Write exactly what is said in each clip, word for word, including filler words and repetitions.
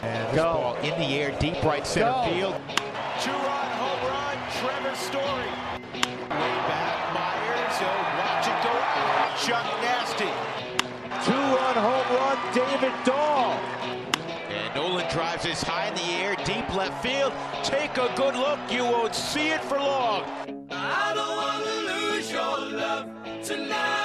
And this Go. ball in the air, deep right center Go. field. Two-run home run, Trevor Story. Way back, Myers. He'll watch it go out. Chuck Nasty. Two-run home run, David Dahl. And Nolan drives this high in the air, deep left field. Take a good look. You won't see it for long. I don't want to lose your love tonight.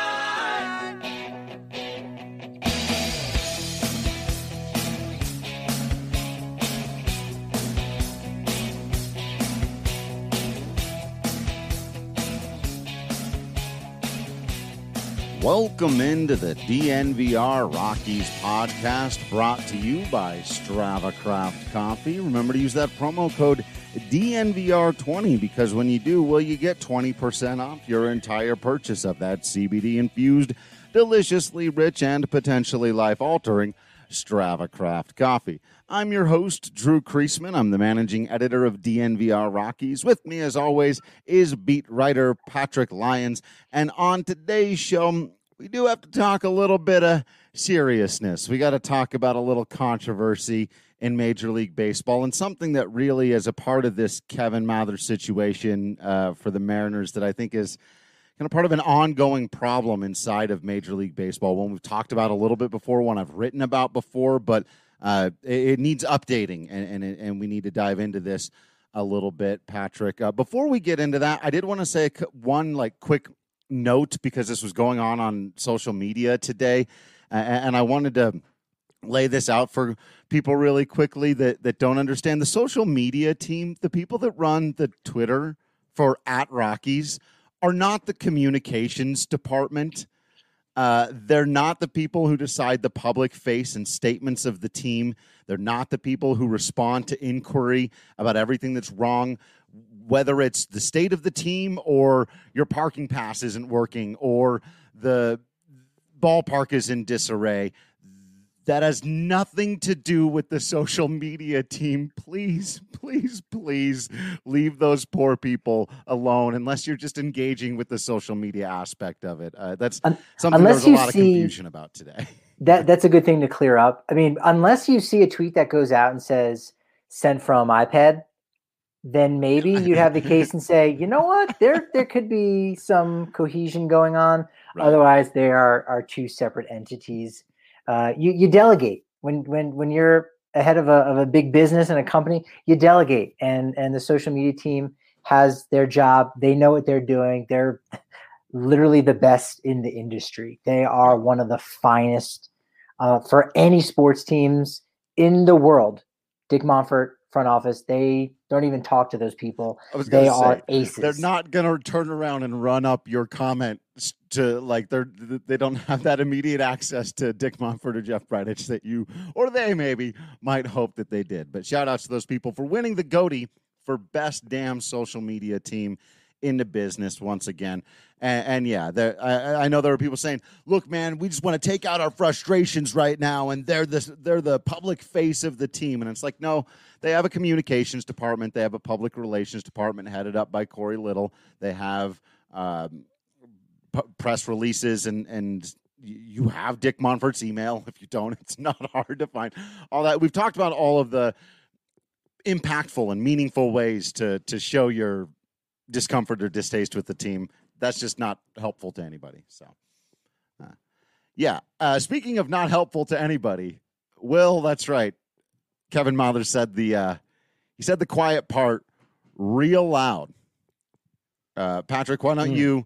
Welcome into the D N V R Rockies podcast, brought to you by Strava Craft Coffee. Remember to use that promo code D N V R twenty, because when you do, well, you get twenty percent off your entire purchase of that C B D-infused, deliciously rich, and potentially life-altering Strava Craft Coffee. I'm your host, Drew Kreisman. I'm the managing editor of D N V R Rockies. With me, as always, is beat writer Patrick Lyons. And on today's show, we do have to talk a little bit of seriousness. We got to talk about a little controversy in Major League Baseball, and something that really is a part of this Kevin Mather situation uh, for the Mariners that I think is kind of part of an ongoing problem inside of Major League Baseball, one we've talked about a little bit before, one I've written about before, but uh, it, it needs updating, and, and and we need to dive into this a little bit, Patrick. Uh, before we get into that, I did want to say one like quick note, because this was going on on social media today, uh, and I wanted to lay this out for people really quickly that, that don't understand. The social media team, the people that run the Twitter for at Rockies, are not the communications department. Uh, they're not the people who decide the public face and statements of the team. They're not the people who respond to inquiry about everything that's wrong, whether it's the state of the team or your parking pass isn't working or the ballpark is in disarray. That has nothing to do with the social media team. Please, please, please leave those poor people alone, unless you're just engaging with the social media aspect of it. Uh, that's Un- something there's a lot of confusion about today. that That's a good thing to clear up. I mean, unless you see a tweet that goes out and says, sent from iPad, then maybe you'd have the case and say, you know what, there there could be some cohesion going on. Right. Otherwise, they are, are two separate entities. Uh, you, you delegate when, when, when you're ahead of a, of a big business and a company, you delegate, and, and the social media team has their job. They know what they're doing. They're literally the best in the industry. They are one of the finest uh, for any sports teams in the world. Dick Monfort front office, they don't even talk to those people. They say, are aces. They're not going to turn around and run up your comment to like they're they don't have that immediate access to Dick Monfort or Jeff Bridich that you or they maybe might hope that they did. But shout outs to those people for winning the Goatee for best damn social media team in the business once again. And, and yeah, there, I, I know there are people saying, look, man, we just want to take out our frustrations right now, and they're the, they're the public face of the team. And it's like, no, they have a communications department. They have a public relations department headed up by Corey Little. They have um, p- press releases, and, and you have Dick Monfort's email. If you don't, it's not hard to find all that. We've talked about all of the impactful and meaningful ways to to show your discomfort or distaste with the team. That's just not helpful to anybody. So, uh, yeah. Uh, speaking of not helpful to anybody, Will, that's right. Kevin Mather said the uh, he said the quiet part real loud. Uh, Patrick, why don't mm. you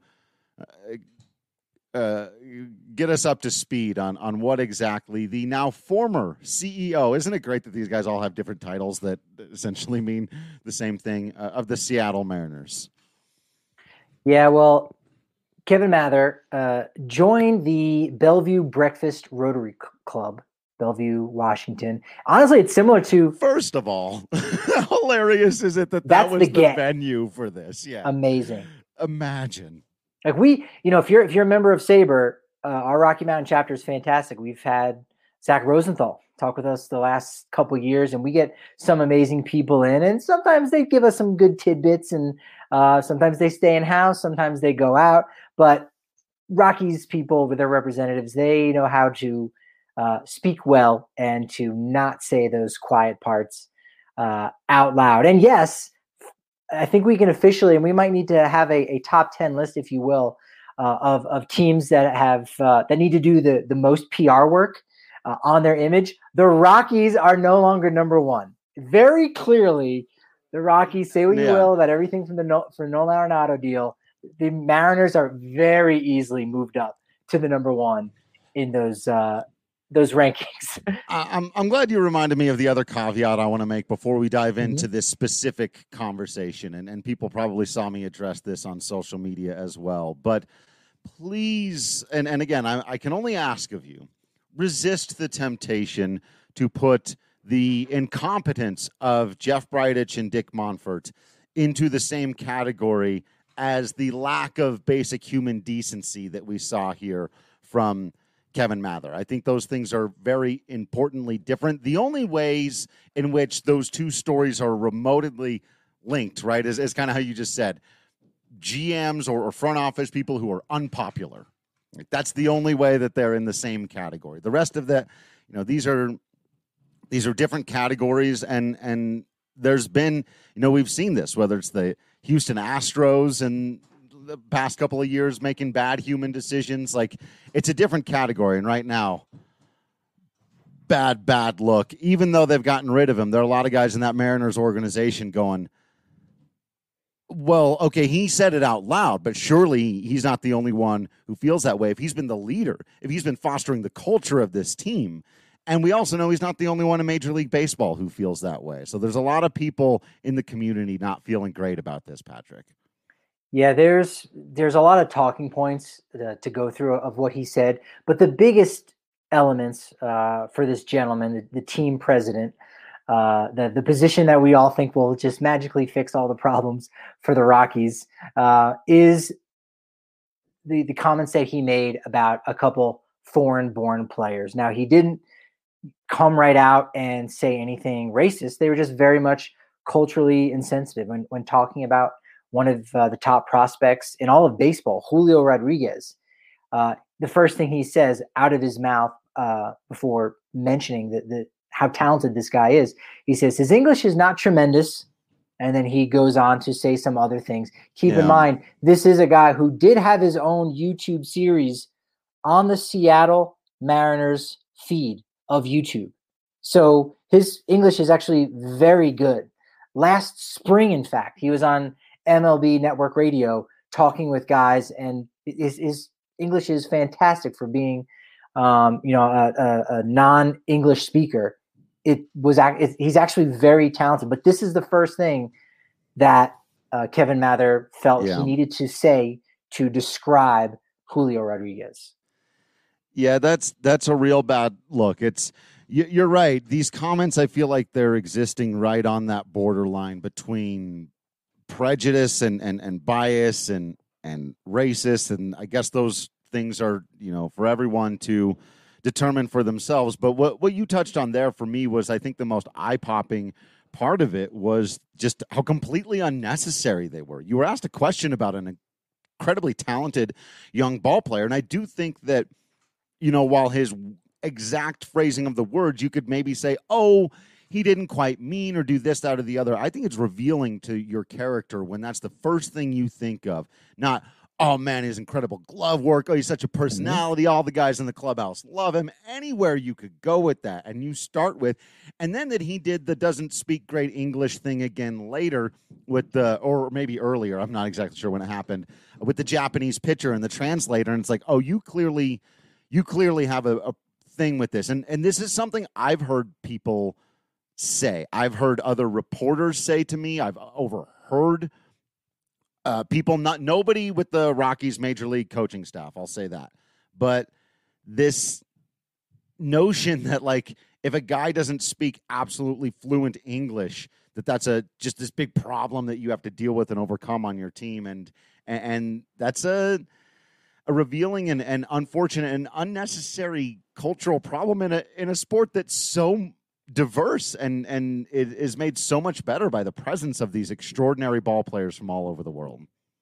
uh, uh, get us up to speed on on what exactly the now former C E O, isn't it great that these guys all have different titles that essentially mean the same thing, uh, of the Seattle Mariners? Yeah, well, Kevin Mather uh, joined the Bellevue Breakfast Rotary C- Club, Bellevue, Washington. Honestly, it's similar to... First of all, how hilarious is it that that was the, the venue for this? Yeah, amazing. Imagine. Like we, you know, if you're if you're a member of Sabre, uh, our Rocky Mountain chapter is fantastic. We've had Zach Rosenthal talk with us the last couple of years, and we get some amazing people in, and sometimes they give us some good tidbits, and uh, sometimes they stay in house, sometimes they go out. But Rockies people with their representatives, they know how to uh, speak well and to not say those quiet parts uh, out loud. And yes, I think we can officially, and we might need to have a, a top ten list, if you will, uh, of of teams that have uh, that need to do the the most P R work uh, on their image. The Rockies are no longer number one. Very clearly, the Rockies, say what you Yeah. will about everything from the no, for Nolan Arenado deal. The Mariners are very easily moved up to the number one in those uh, those rankings. I- I'm I'm glad you reminded me of the other caveat I want to make before we dive Mm-hmm. into this specific conversation, and, and people probably saw me address this on social media as well. But please, and, and again, I, I can only ask of you, resist the temptation to put the incompetence of Jeff Bridich and Dick Monfort into the same category as the lack of basic human decency that we saw here from Kevin Mather. I think those things are very importantly different. The only ways in which those two stories are remotely linked, right, is, is kind of how you just said, G Ms or, or front office people who are unpopular. Like, that's the only way that they're in the same category. The rest of that, you know, these are these are different categories, and and there's been, you know, we've seen this, whether it's the Houston Astros and the past couple of years making bad human decisions. Like, it's a different category. And right now, bad, bad look. Even though they've gotten rid of him, there are a lot of guys in that Mariners organization going, well, okay, he said it out loud, but surely he's not the only one who feels that way. If he's been the leader, if he's been fostering the culture of this team, and we also know he's not the only one in Major League Baseball who feels that way. So there's a lot of people in the community not feeling great about this, Patrick. Yeah, there's there's a lot of talking points uh, to go through of what he said, but the biggest elements uh, for this gentleman, the, the team president, uh, the the position that we all think will just magically fix all the problems for the Rockies, uh, is the the comments that he made about a couple foreign-born players. Now, he didn't come right out and say anything racist. They were just very much culturally insensitive when when talking about one of uh, the top prospects in all of baseball, Julio Rodriguez. Uh, the first thing he says out of his mouth uh, before mentioning the, the how talented this guy is, he says his English is not tremendous, and then he goes on to say some other things. Keep Yeah. in mind, this is a guy who did have his own YouTube series on the Seattle Mariners feed of YouTube. So his English is actually very good. Last spring, in fact, he was on M L B Network Radio talking with guys, and his, his English is fantastic for being, um, you know, a, a, a non-English speaker. It was it, he's actually very talented, but this is the first thing that uh, Kevin Mather felt Yeah. he needed to say to describe Julio Rodriguez. Yeah, that's that's a real bad look. It's you- you're right. These comments, I feel like they're existing right on that borderline between prejudice and, and, and bias and, and racist. And I guess those things are, you know, for everyone to determine for themselves. But what, what you touched on there for me was, I think, the most eye-popping part of it was just how completely unnecessary they were. You were asked a question about an incredibly talented young ball player. And I do think that, you know, while his exact phrasing of the words, you could maybe say, oh, he didn't quite mean or do this, that, or the other. I think it's revealing to your character when that's the first thing you think of. Not, oh, man, his incredible glove work. Oh, he's such a personality. Mm-hmm. All the guys in the clubhouse love him. Anywhere you could go with that. And you start with, and then that he did the doesn't speak great English thing again later with the, or maybe earlier, I'm not exactly sure when it happened, with the Japanese pitcher and the translator. And it's like, oh, you clearly, you clearly have a, a thing with this. And, and this is something I've heard people say. I've heard other reporters say to me. I've overheard uh, people, not nobody with the Rockies major league coaching staff, I'll say that. But this notion that, like, if a guy doesn't speak absolutely fluent English, that that's a just this big problem that you have to deal with and overcome on your team. And and that's a a revealing and, and unfortunate and unnecessary cultural problem in a in a sport that's so diverse and and it is made so much better by the presence of these extraordinary ball players from all over the world.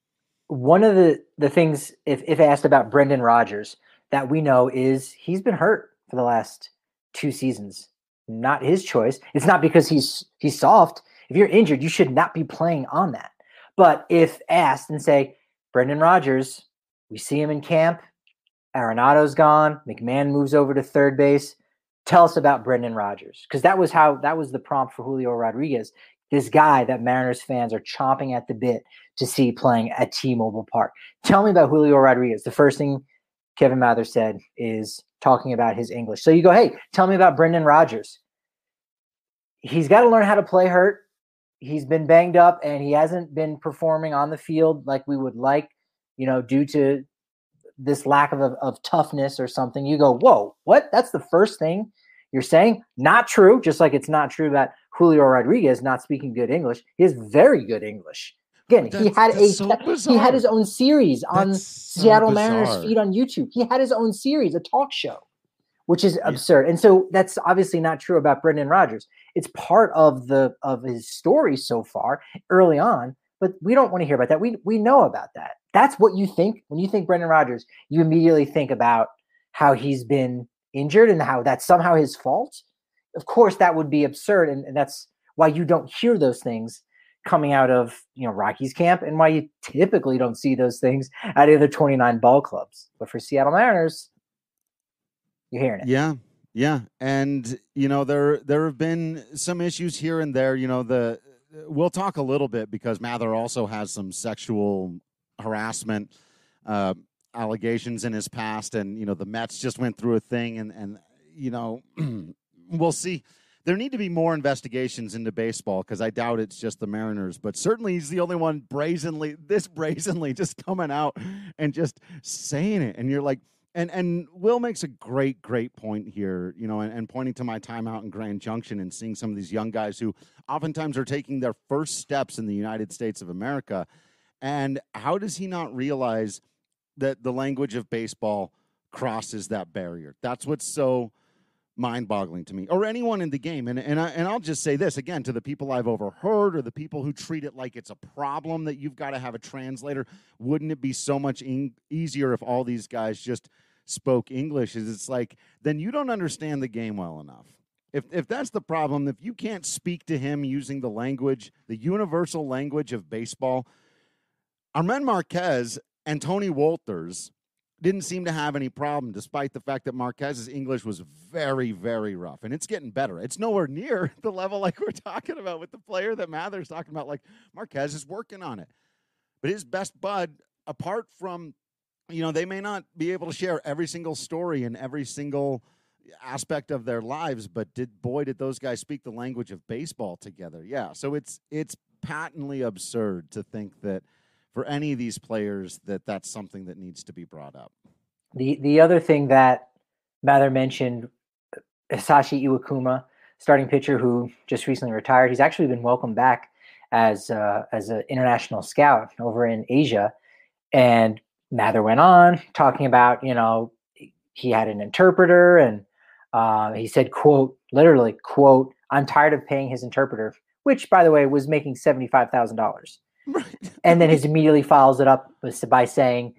One of the, the things, if, if asked about Brendan Rodgers, that we know is he's been hurt for the last two seasons. Not his choice. It's not because he's he's soft. If you're injured, you should not be playing on that. But if asked and say, Brendan Rodgers, we see him in camp, Arenado's gone, McMahon moves over to third base. Tell us about Brendan Rodgers. Because that was how that was the prompt for Julio Rodriguez. This guy that Mariners fans are chomping at the bit to see playing at T-Mobile Park. Tell me about Julio Rodriguez. The first thing Kevin Mather said is talking about his English. So you go, hey, tell me about Brendan Rodgers. He's got to learn how to play hurt. He's been banged up and he hasn't been performing on the field like we would like, you know, due to this lack of, of, of toughness or something. You go, whoa, what? That's the first thing you're saying? Not true. Just like it's not true that Julio Rodriguez not speaking good English. He has very good English. Again, he had a so he had his own series on That's so Seattle bizarre. Mariners feed on YouTube. He had his own series, a talk show, which is absurd. And so that's obviously not true about Brendan Rodgers. It's part of the of his story so far early on, but we don't want to hear about that. We we know about that. That's what you think when you think Brendan Rodgers. You immediately think about how he's been injured and how that's somehow his fault. Of course, that would be absurd, and, and that's why you don't hear those things coming out of, you know, Rockies camp, and why you typically don't see those things out of the twenty-nine ball clubs. But for Seattle Mariners, you're hearing it. Yeah, yeah, and you know there there have been some issues here and there. You know, the we'll talk a little bit because Mather also has some sexual harassment uh, allegations in his past, and you know the Mets just went through a thing, and and you know we'll see. There need to be more investigations into baseball because I doubt it's just the Mariners, but certainly he's the only one brazenly, this brazenly just coming out and just saying it. And you're like, and, and Will makes a great, great point here, you know, and, and pointing to my time out in Grand Junction and seeing some of these young guys who oftentimes are taking their first steps in the United States of America. And how does he not realize that the language of baseball crosses that barrier? That's what's so mind-boggling to me, or anyone in the game. And and, I, and I'll just say this, again, to the people I've overheard or the people who treat it like it's a problem that you've got to have a translator, wouldn't it be so much in- easier if all these guys just spoke English? Is It's like, then you don't understand the game well enough. If if that's the problem, if you can't speak to him using the language, the universal language of baseball, Armen Marquez and Tony Wolters didn't seem to have any problem, despite the fact that Marquez's English was very, very rough. And it's getting better. It's nowhere near the level like we're talking about with the player that Mather's talking about. Like, Marquez is working on it. But his best bud, apart from, you know, they may not be able to share every single story and every single aspect of their lives, but did boy, did those guys speak the language of baseball together. Yeah, so it's it's patently absurd to think that for any of these players that that's something that needs to be brought up. The the other thing that Mather mentioned, Hisashi Iwakuma, starting pitcher who just recently retired. He's actually been welcomed back as uh, as an international scout over in Asia. And Mather went on talking about, you know, he had an interpreter, and uh, he said, quote, literally, quote, "I'm tired of paying his interpreter," which, by the way, was making seventy-five thousand dollars. Right. And then he immediately follows it up by saying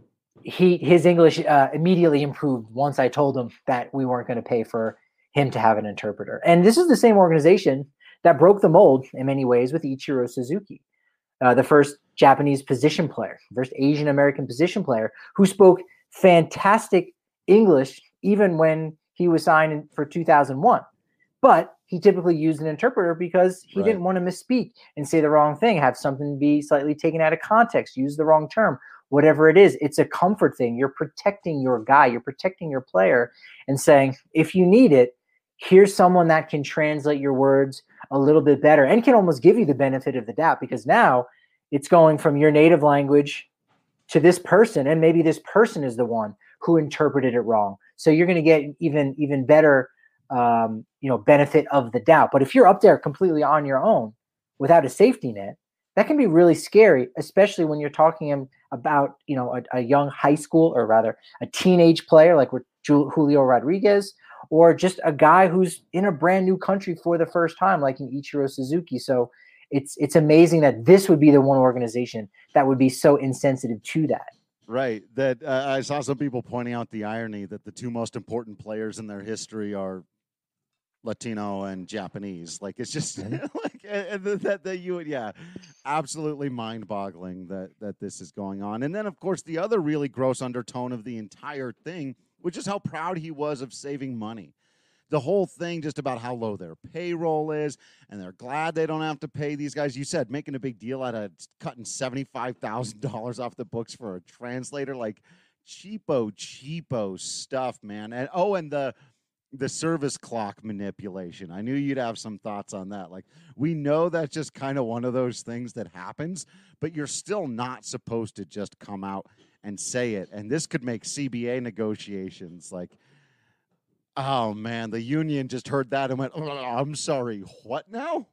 he his English uh, immediately improved once I told him that we weren't going to pay for him to have an interpreter. And this is the same organization that broke the mold in many ways with Ichiro Suzuki, uh, the first Japanese position player, first Asian American position player who spoke fantastic English even when he was signed in, for two thousand one. But he typically used an interpreter because he right. didn't want to misspeak and say the wrong thing, have something be slightly taken out of context, use the wrong term, whatever it is. It's a comfort thing. You're protecting your guy. You're protecting your player and saying, if you need it, here's someone that can translate your words a little bit better and can almost give you the benefit of the doubt, because now it's going from your native language to this person, and maybe this person is the one who interpreted it wrong. So you're going to get even, even better um, you know, benefit of the doubt. But if you're up there completely on your own without a safety net, that can be really scary, especially when you're talking about, you know, a, a young high school, or rather a teenage player like with Julio Rodriguez, or just a guy who's in a brand new country for the first time, like in Ichiro Suzuki. So it's it's amazing that this would be the one organization that would be so insensitive to that. Right. That uh, I saw some people pointing out the irony that the two most important players in their history are Latino and Japanese. Like it's just like and that that you would yeah, absolutely mind-boggling that that this is going on. And then of course the other really gross undertone of the entire thing, which is how proud he was of saving money. The whole thing just about how low their payroll is, and they're glad they don't have to pay these guys. You said making a big deal out of cutting seventy-five thousand dollars off the books for a translator, like cheapo, cheapo stuff, man. And oh, and the the service clock manipulation. I knew you'd have some thoughts on that. Like, we know that's just kind of one of those things that happens, but you're still not supposed to just come out and say it. And this could make C B A negotiations like, oh, man, the union just heard that and went, oh, I'm sorry, what now?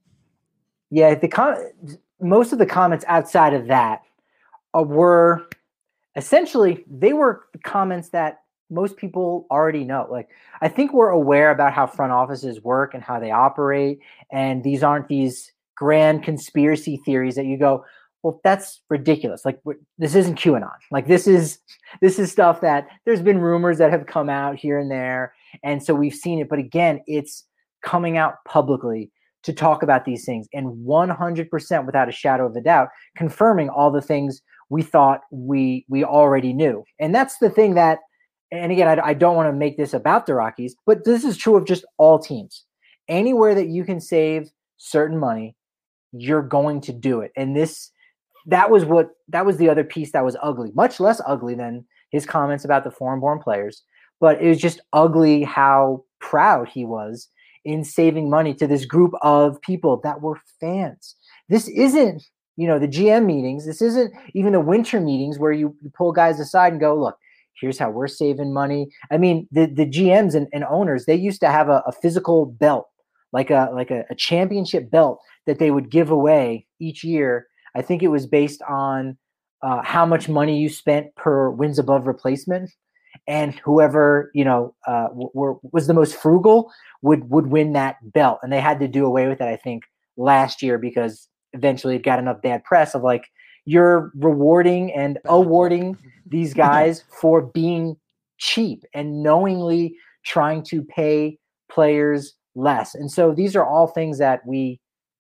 Yeah, the com- most of the comments outside of that uh, were essentially, they were comments that most people already know. Like, I think we're aware about how front offices work and how they operate. And these aren't these grand conspiracy theories that you go, well, that's ridiculous. Like, this isn't QAnon. Like, this is, this is stuff that there's been rumors that have come out here and there. And so we've seen it. But again, it's coming out publicly to talk about these things, and one hundred percent without a shadow of a doubt, confirming all the things we thought we, we already knew. And that's the thing that, and again, I, I don't want to make this about the Rockies, but this is true of just all teams. Anywhere that you can save certain money, you're going to do it. And this, that was what, that was the other piece that was ugly, much less ugly than his comments about the foreign-born players. But it was just ugly how proud he was in saving money to this group of people that were fans. This isn't, you know, the G M meetings. This isn't even the winter meetings where you, you pull guys aside and go, look, here's how we're saving money. I mean, the, the G Ms and, and owners, they used to have a, a physical belt, like a like a, a championship belt that they would give away each year. I think it was based on uh, how much money you spent per wins above replacement. And whoever, you know, uh, were, was the most frugal would would win that belt. And they had to do away with it, I think, last year because eventually it got enough bad press of like, you're rewarding and awarding these guys for being cheap and knowingly trying to pay players less. And so these are all things that we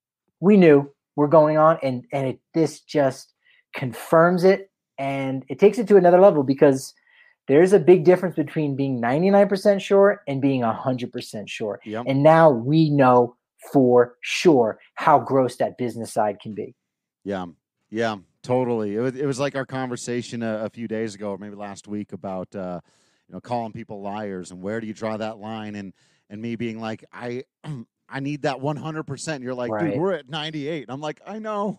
we knew were going on, and and it, this just confirms it, and it takes it to another level because there's a big difference between being ninety-nine percent sure and being one hundred percent sure. Yep. And now we know for sure how gross that business side can be. Yeah, yeah, totally. It was, it was like our conversation a, a few days ago, or maybe last week, about uh, you know, calling people liars and where do you draw that line, and and me being like, I I need that one hundred percent. You're like, Right. dude, we're at ninety-eight. And I'm like, I know.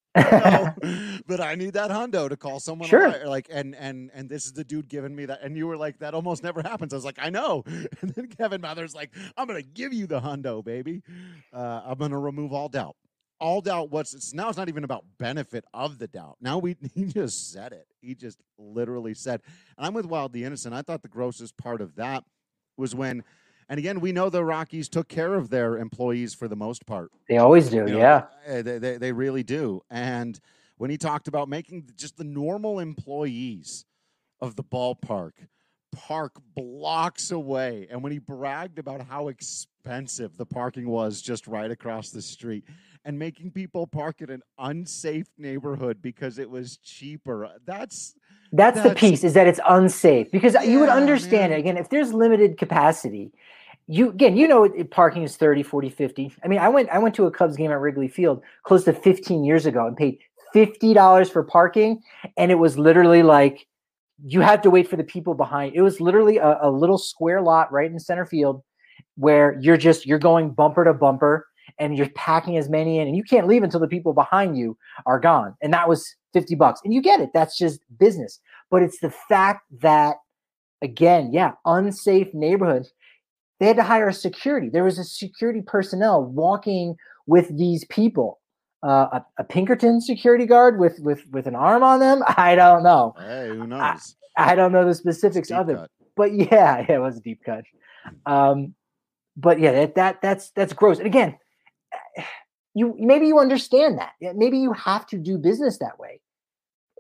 I know, but I need that hundo to call someone Sure. a liar. Like, and and and this is the dude giving me that. And you were like, that almost never happens. I was like, I know. And then Kevin Mather's like, I'm gonna give you the hundo, baby. Uh, I'm gonna remove all doubt. All doubt. What's it's now? It's not even about benefit of the doubt. Now we he just said it. He just literally said. And I'm with Wild the Innocent. I thought the grossest part of that was when. And again, we know the Rockies took care of their employees for the most part. They always do, You know, yeah. They, they, they really do. And when he talked about making just the normal employees of the ballpark park blocks away, and when he bragged about how expensive the parking was just right across the street, and making people park in an unsafe neighborhood because it was cheaper, that's... That's, That's the piece, is that it's unsafe, because you would Yeah, understand man. it. Again, if there's limited capacity, you again, you know, it, parking is thirty, forty, fifty. I mean, I went I went to a Cubs game at Wrigley Field close to fifteen years ago and paid fifty dollars for parking. And it was literally like, you had to wait for the people behind. It was literally a, a little square lot right in center field where you're just, you're going bumper to bumper and you're packing as many in, and you can't leave until the people behind you are gone. And that was fifty bucks. And you get it. That's just business. But it's the fact that, again, yeah, unsafe neighborhoods. They had to hire a security. There was a security personnel walking with these people. Uh, a, a Pinkerton security guard with, with, with an arm on them. I don't know. Hey, who knows? I, I don't know the specifics Deep of it. cut. But yeah, yeah, it was a deep cut. Um, but yeah, that, that that's that's gross. And again, you maybe you understand that. Maybe you have to do business that way.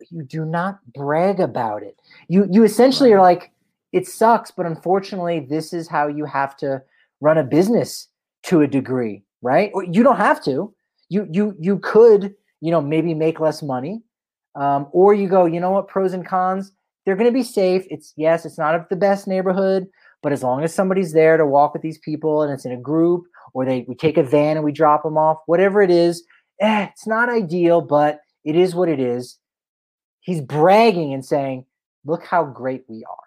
you do not brag about it. You you essentially Right. are like, it sucks, but unfortunately, this is how you have to run a business to a degree, right? Or you don't have to. You you you could, you know, maybe make less money, um, or you go, you know what, pros and cons. They're going to be safe. It's yes, it's not the best neighborhood, but as long as somebody's there to walk with these people and it's in a group, or they we take a van and we drop them off, whatever it is, eh, it's not ideal, but it is what it is. He's bragging and saying, look how great we are.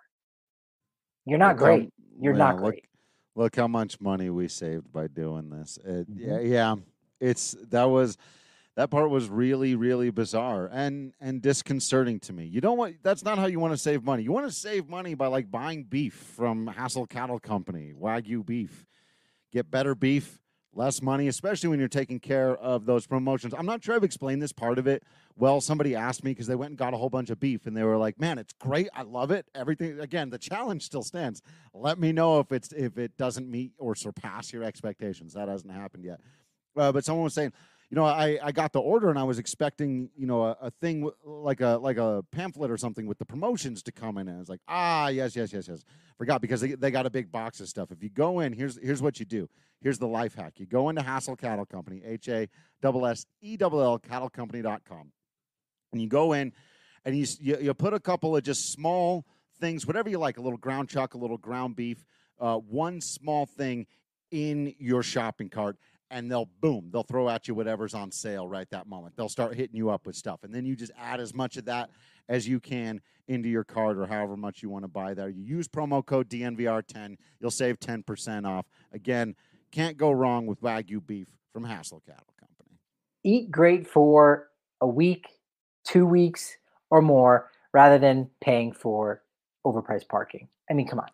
You're not Look how- great. You're yeah, not look- great. Look how much money we saved by doing this. It, Mhm. Yeah, yeah, it's that was that part was really, really bizarre and and disconcerting to me. You don't want that's not how you want to save money. You want to save money by like buying beef from Hassel Cattle Company, Wagyu beef. Get better beef, less money, especially when you're taking care of those promotions. I'm not sure I've explained this part of it well. Somebody asked me because they went and got a whole bunch of beef, and they were like, "Man, it's great. I love it. Everything." Again, the challenge still stands. Let me know if it's if it doesn't meet or surpass your expectations. That hasn't happened yet. Uh, but someone was saying, you know, I, I got the order and I was expecting, you know, a, a thing w- like a like a pamphlet or something with the promotions to come in. And it's like, ah, yes, yes, yes, yes. Forgot because they, they got a big box of stuff. If you go in, here's here's what you do. Here's the life hack. You go into Hassel Cattle Company, H A S S E L L cattle company dot com. And you go in and you, s- you you put a couple of just small things, whatever you like, a little ground chuck, a little ground beef, uh, one small thing in your shopping cart, and they'll boom, they'll throw at you whatever's on sale right that moment. They'll start hitting you up with stuff, and then you just add as much of that as you can into your cart or however much you want to buy there. You use promo code D N V R ten, you'll save ten percent off. Again, can't go wrong with Wagyu beef from Hassel Cattle Company. Eat great for a week, two weeks, or more, rather than paying for overpriced parking. I mean, come on.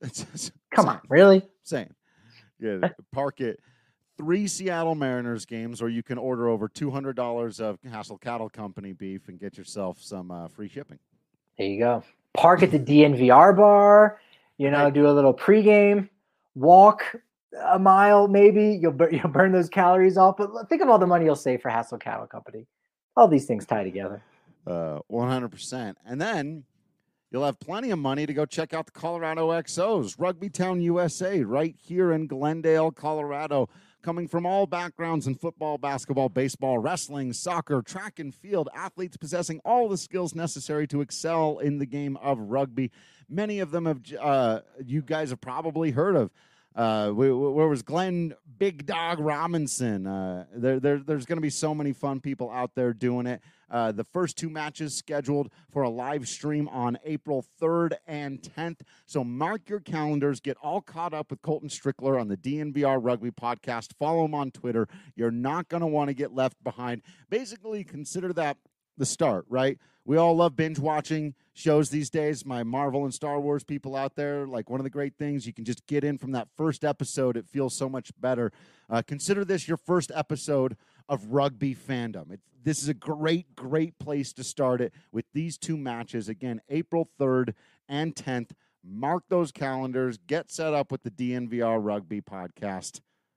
Come on, really? Saying. Yeah, park it. Three Seattle Mariners games, or you can order over two hundred dollars of Hassel Cattle Company beef and get yourself some uh, free shipping. There you go. Park at the D N V R bar, you know, Right. do a little pregame, walk a mile maybe. You'll, bur- you'll burn those calories off. But think of all the money you'll save for Hassel Cattle Company. All these things tie together. Uh, one hundred percent. And then you'll have plenty of money to go check out the Colorado X Os, Rugby Town U S A, right here in Glendale, Colorado. Coming from all backgrounds in football, basketball, baseball, wrestling, soccer, track and field, athletes possessing all the skills necessary to excel in the game of rugby. Many of them have uh, you guys have probably heard of. Uh, where was Glenn Big Dog Robinson? Uh, there, there, there's going to be so many fun people out there doing it. Uh, the first two matches scheduled for a live stream on April third and tenth. So mark your calendars. Get all caught up with Colton Strickler on the D N V R Rugby Podcast. Follow him on Twitter. You're not going to want to get left behind. Basically, consider that the start, right? We all love binge watching shows these days. My Marvel and Star Wars people out there, like one of the great things, you can just get in from that first episode. It feels so much better. Uh, consider this your first episode of rugby fandom. It, this is a great, great place to start it with these two matches. Again, April third and tenth. Mark those calendars. Get set up with the D N V R Rugby Podcast.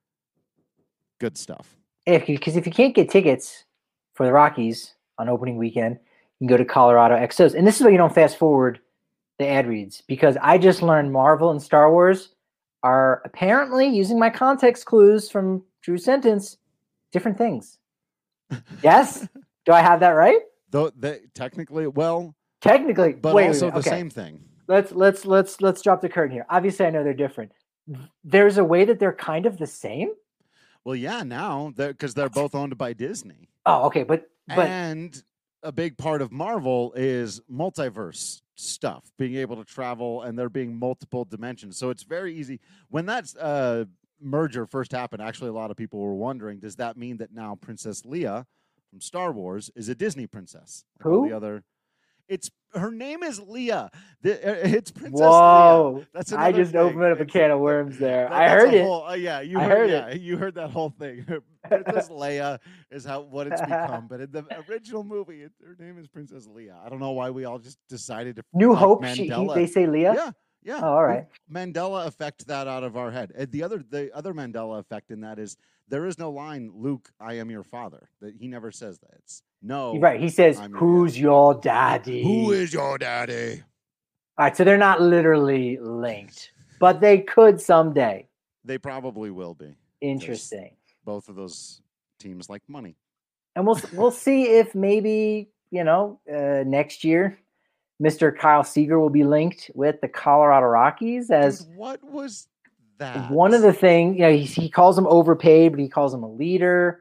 Good stuff. If Because if you can't get tickets for the Rockies on opening weekend, you can go to Colorado X Os. And this is why you don't fast forward the ad reads, because I just learned Marvel and Star Wars are apparently, using my context clues from Drew's sentence, different things. Yes? Do I have that right? Though they technically, well, Technically, but wait, also wait, the okay. same thing. Let's let's let's let's drop the curtain here. Obviously, I know they're different. There's a way that they're kind of the same. Well, yeah, now because they're, they're both owned by Disney. Oh, okay, but but and a big part of Marvel is multiverse stuff, being able to travel, and there being multiple dimensions. So it's very easy. When that uh, merger first happened, actually, a lot of people were wondering, does that mean that now Princess Leia from Star Wars is a Disney princess? Like all Who? the other. It's her name is Leia. The, it's Princess Whoa! Leia. That's I another just thing. opened up a It's- can of worms there. that- I that's heard a it. whole- uh, yeah, you I heard, heard yeah, it. you heard that whole thing. Princess Leia is how what it's become, but in the original movie, it, her name is Princess Leia. I don't know why we all just decided to New like Hope. She, he, Mandela. they say Leah. yeah, yeah. Oh, all right. We- Mandela effect that out of our head. And the other the other Mandela effect in that is There is no line, Luke, I am your father. That he never says that. It's no. Right. He says, I'm who's your, your daddy? Who is your daddy? All right. So they're not literally linked, but they could someday. They probably will be. Interesting. Both of those teams like money. And we'll we'll see if maybe, you know, uh, next year, Mister Kyle Seager will be linked with the Colorado Rockies as Dude, what was that? One of the things, you know, he, he calls him overpaid, but he calls him a leader.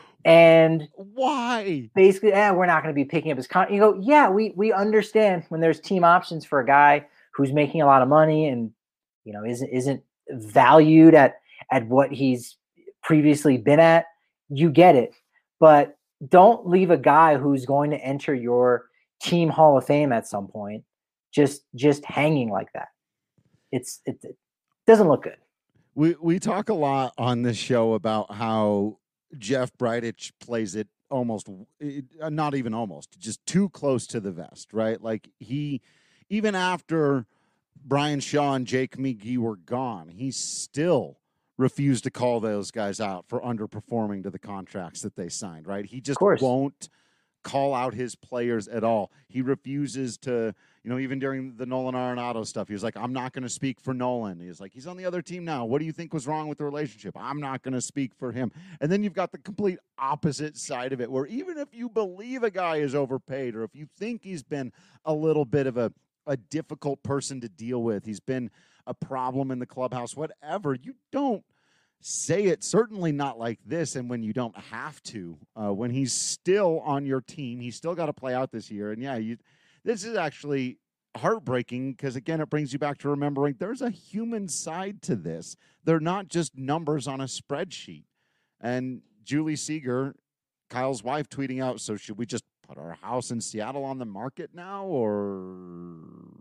And why? Basically, eh, we're not going to be picking up his con. You go, yeah, we we understand when there's team options for a guy who's making a lot of money and, you know, isn't isn't valued at at what he's previously been at. You get it, but don't leave a guy who's going to enter your team Hall of Fame at some point just just hanging like that. It's it, it doesn't look good. We we talk a lot on this show about how Jeff Bridich plays it almost, not even almost, just too close to the vest, right? Like he, even after Brian Shaw and Jake McGee were gone, he still refused to call those guys out for underperforming to the contracts that they signed, right? He just won't call out his players at all. He refuses to, you know, even during the Nolan Arenado stuff, he was like, I'm not going to speak for Nolan. He's like, he's on the other team now. What do you think was wrong with the relationship? I'm not going to speak for him. And then you've got the complete opposite side of it, where even if you believe a guy is overpaid, or if you think he's been a little bit of a, a difficult person to deal with, he's been a problem in the clubhouse, whatever, you don't say it, certainly not like this, and when you don't have to. Uh, when he's still on your team, he's still got to play out this year. And, yeah, you, this is actually heartbreaking because, again, it brings you back to remembering there's a human side to this. They're not just numbers on a spreadsheet. And Julie Seager, Kyle's wife, tweeting out, so should we just put our house in Seattle on the market now, or...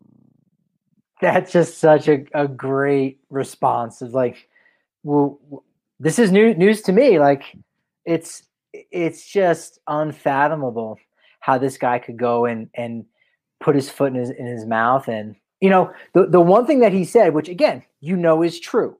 That's just such a, a great response. Of like, well, this is new news to me. Like, it's it's just unfathomable how this guy could go and and put his foot in his in his mouth. And you know, the the one thing that he said, which again, you know, is true,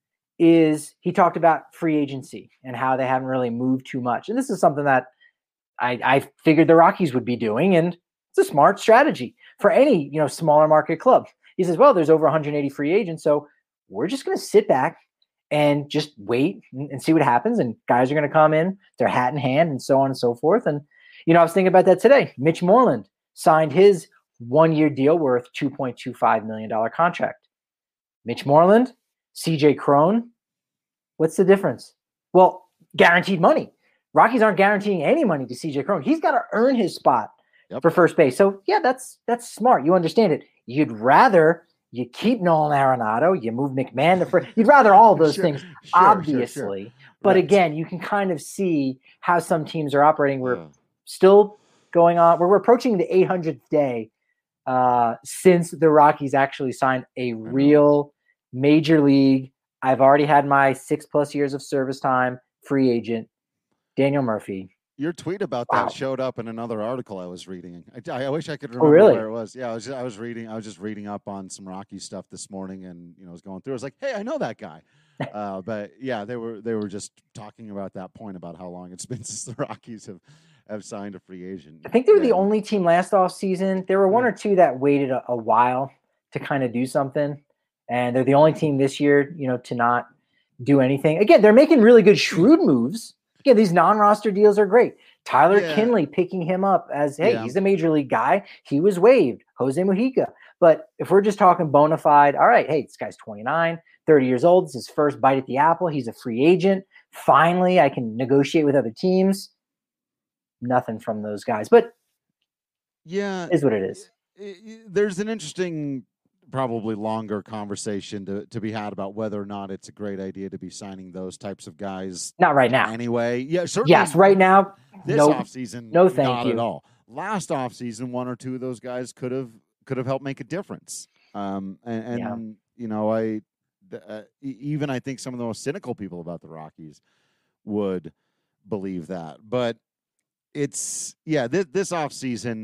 is he talked about free agency and how they haven't really moved too much. And this is something that I, I figured the Rockies would be doing, and it's a smart strategy for any, you know, smaller market club. He says, well, there's over one hundred eighty free agents, so we're just going to sit back and just wait and, and see what happens. And guys are going to come in, their hat in hand, and so on and so forth. And, you know, I was thinking about that today. Mitch Moreland signed his one-year deal worth two point two five million dollars contract. Mitch Moreland, C J Cron, what's the difference? Well, guaranteed money. Rockies aren't guaranteeing any money to C J Cron. He's got to earn his spot yep. for first base. So, yeah, that's that's smart. You understand it. You'd rather you keep Nolan Arenado, you move McMahon to first. You'd rather all those sure, things, sure, obviously. Sure, sure. But right. again, you can kind of see how some teams are operating. We're yeah. still going on. We're, we're approaching the eight hundredth day uh, since the Rockies actually signed a real major league. I've already had my six plus years of service time free agent, Daniel Murphy. Your tweet about that wow. showed up in another article I was reading. I, I wish I could remember oh, really? where it was. Yeah, I was. I was reading. I was just reading up on some Rockies stuff this morning, and you know, I was going through. I was like, "Hey, I know that guy." uh, but yeah, they were they were just talking about that point about how long it's been since the Rockies have, have signed a free agent. I think they were yeah. the only team last offseason. There were one yeah. or two that waited a, a while to kind of do something, and they're the only team this year, you know, to not do anything. Again, they're making really good shrewd moves. Again, these non-roster deals are great. Tyler yeah. Kinley picking him up as, hey, yeah. he's a major league guy. He was waived. Jose Mujica. But if we're just talking bona fide, all right, hey, this guy's twenty-nine, thirty years old. It's his first bite at the apple. He's a free agent. Finally, I can negotiate with other teams. Nothing from those guys. But yeah, it is what it is. There's an interesting, probably longer conversation to, to be had about whether or not it's a great idea to be signing those types of guys. Not right now. Anyway. Yeah, certainly. Yes, right now. This no, offseason, no thank not you. at all. Last offseason, one or two of those guys could have could have helped make a difference. Um, and, and yeah. you know, I uh, even I think some of the most cynical people about the Rockies would believe that. But it's, yeah, this, this offseason,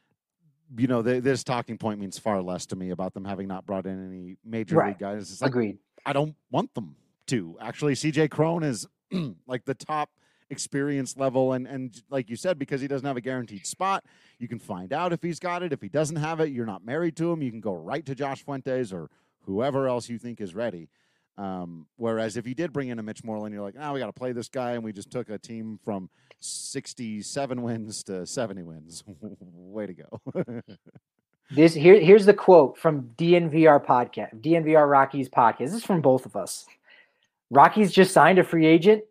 you know, the, this talking point means far less to me about them having not brought in any major right. league guys. It's like, agreed. I don't want them to. Actually, C J Cron is like the top experience level. And, and like you said, because he doesn't have a guaranteed spot, you can find out if he's got it. If he doesn't have it, you're not married to him. You can go right to Josh Fuentes or whoever else you think is ready. Um, whereas if you did bring in a Mitch Moreland, you're like, oh, we got to play this guy, and we just took a team from sixty-seven wins to seventy wins. Way to go. This here, here's the quote from D N V R podcast, D N V R Rockies podcast. This is from both of us. Rockies just signed a free agent.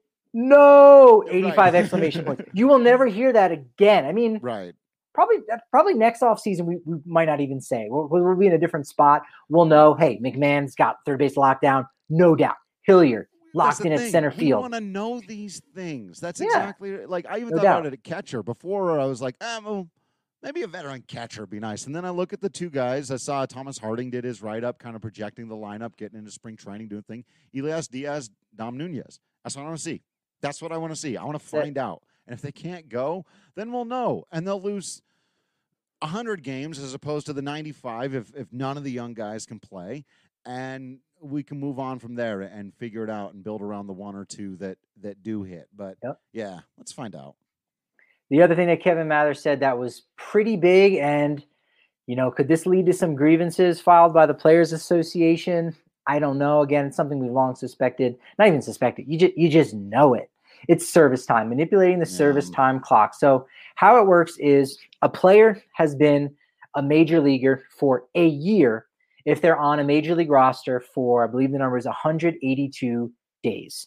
No, eighty-five right. exclamation points. You will never hear that again. I mean, right. Probably, probably next offseason, we, we might not even say. We'll, we'll be in a different spot. We'll know, hey, McMahon's got third base lockdown. No doubt. Hilliard locked in at center we field. We want to know these things. That's yeah. exactly like I even no thought doubt. about it at catcher before. I was like, ah, well, maybe a veteran catcher would be nice. And then I look at the two guys. I saw Thomas Harding did his write-up, kind of projecting the lineup, getting into spring training, doing thing. Elias Diaz, Dom Nunez. That's what I want to see. That's what I want to see. I want to find out. And if they can't go, then we'll know. And they'll lose one hundred games as opposed to the ninety-five if, if none of the young guys can play. And we can move on from there and figure it out and build around the one or two that, that do hit. But, yep. yeah, let's find out. The other thing that Kevin Mather said that was pretty big, and, you know, could this lead to some grievances filed by the Players Association? I don't know. Again, it's something we've long suspected. Not even suspected. You just, you just know it. It's service time, manipulating the service yeah. time clock. So how it works is a player has been a major leaguer for a year if they're on a major league roster for, I believe the number is one hundred eighty-two days.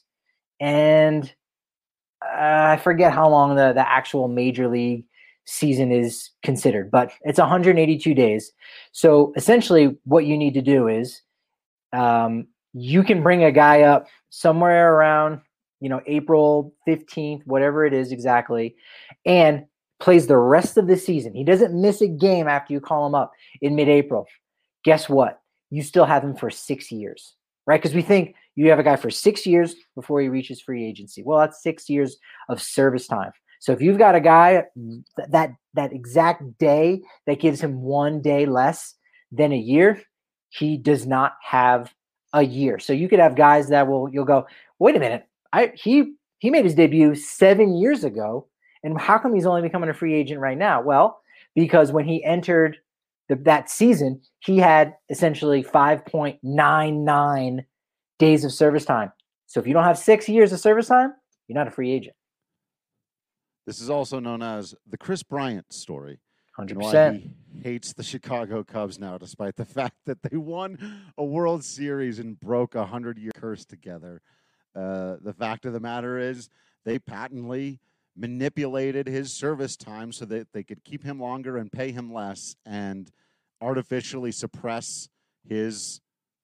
And uh, I forget how long the, the actual major league season is considered, but it's one hundred eighty-two days. So essentially what you need to do is um, you can bring a guy up somewhere around, you know, April fifteenth, whatever it is exactly, and plays the rest of the season. He doesn't miss a game after you call him up in mid-April. Guess what? You still have him for six years, right? Because we think you have a guy for six years before he reaches free agency. Well, that's six years of service time. So if you've got a guy that that exact day that gives him one day less than a year, he does not have a year. So you could have guys that will, you'll go, wait a minute, I he he made his debut seven years ago, and how come he's only becoming a free agent right now? Well, because when he entered the, that season, he had essentially five point nine nine days of service time. So if you don't have six years of service time, you're not a free agent. This is also known as the Chris Bryant story. one hundred percent. Why he hates the Chicago Cubs now, despite the fact that they won a World Series and broke a hundred-year curse together. Uh, the fact of the matter is they patently manipulated his service time so that they could keep him longer and pay him less and artificially suppress his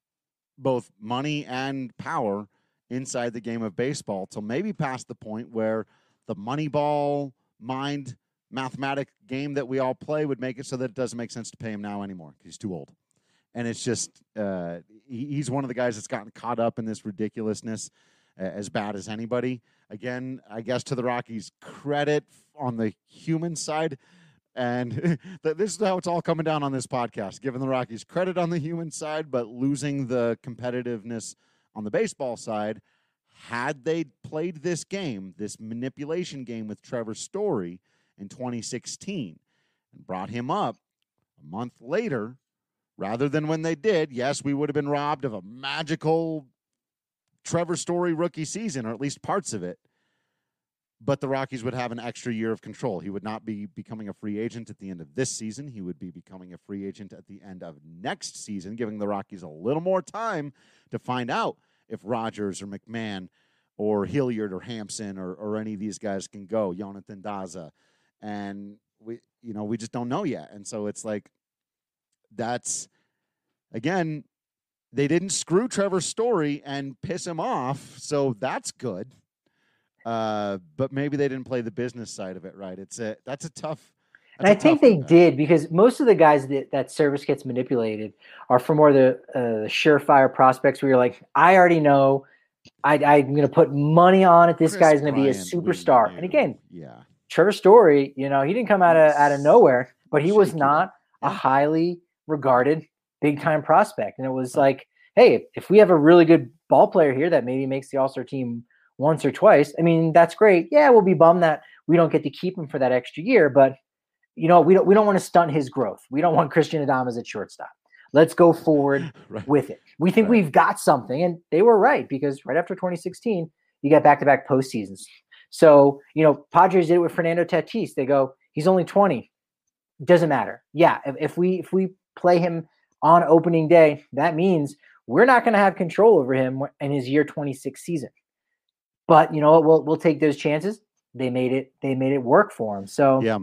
both money and power inside the game of baseball till maybe past the point where the Moneyball mind mathematic game that we all play would make it so that it doesn't make sense to pay him now anymore because he's too old. And it's just uh, he, he's one of the guys that's gotten caught up in this ridiculousness uh, as bad as anybody. Again, I guess to the Rockies' credit on the human side, and this is how it's all coming down on this podcast, giving the Rockies credit on the human side, but losing the competitiveness on the baseball side. Had they played this game, this manipulation game with Trevor Story in twenty sixteen and brought him up a month later, rather than when they did, yes, we would have been robbed of a magical Trevor Story rookie season, or at least parts of it. But the Rockies would have an extra year of control. He would not be becoming a free agent at the end of this season. He would be becoming a free agent at the end of next season, giving the Rockies a little more time to find out if Rogers or McMahon or Hilliard or Hampson or, or any of these guys can go, Jonathan Daza. And we, you know, we just don't know yet. And so it's like, that's, again, they didn't screw Trevor Story and piss him off, so that's good. Uh, but maybe they didn't play the business side of it right. It's a that's a tough. And I think they did, because most of the guys that that service gets manipulated are for more the uh, surefire prospects where you're like, I already know, I, I'm going to put money on it. This Chris guy's going to be a Bryant, superstar. we And again, yeah, Trevor Story, you know, he didn't come out of out of nowhere, but he was Shaky. not Yeah. a highly regarded big time prospect. And it was like, hey, if we have a really good ball player here that maybe makes the All-Star team once or twice, I mean, that's great. Yeah, we'll be bummed that we don't get to keep him for that extra year, but you know, we don't we don't want to stunt his growth. We don't want Christian Adames at shortstop. Let's go forward right. with it. We think right. we've got something, and they were right, because right after twenty sixteen, you got back-to-back postseasons. So, you know, Padres did it with Fernando Tatis. They go, he's only twenty. Doesn't matter. Yeah, if, if we if we play him on opening day, that means we're not going to have control over him in his year twenty-six season. But you know what? We'll we'll take those chances. They made it. They made it work for him. So yeah,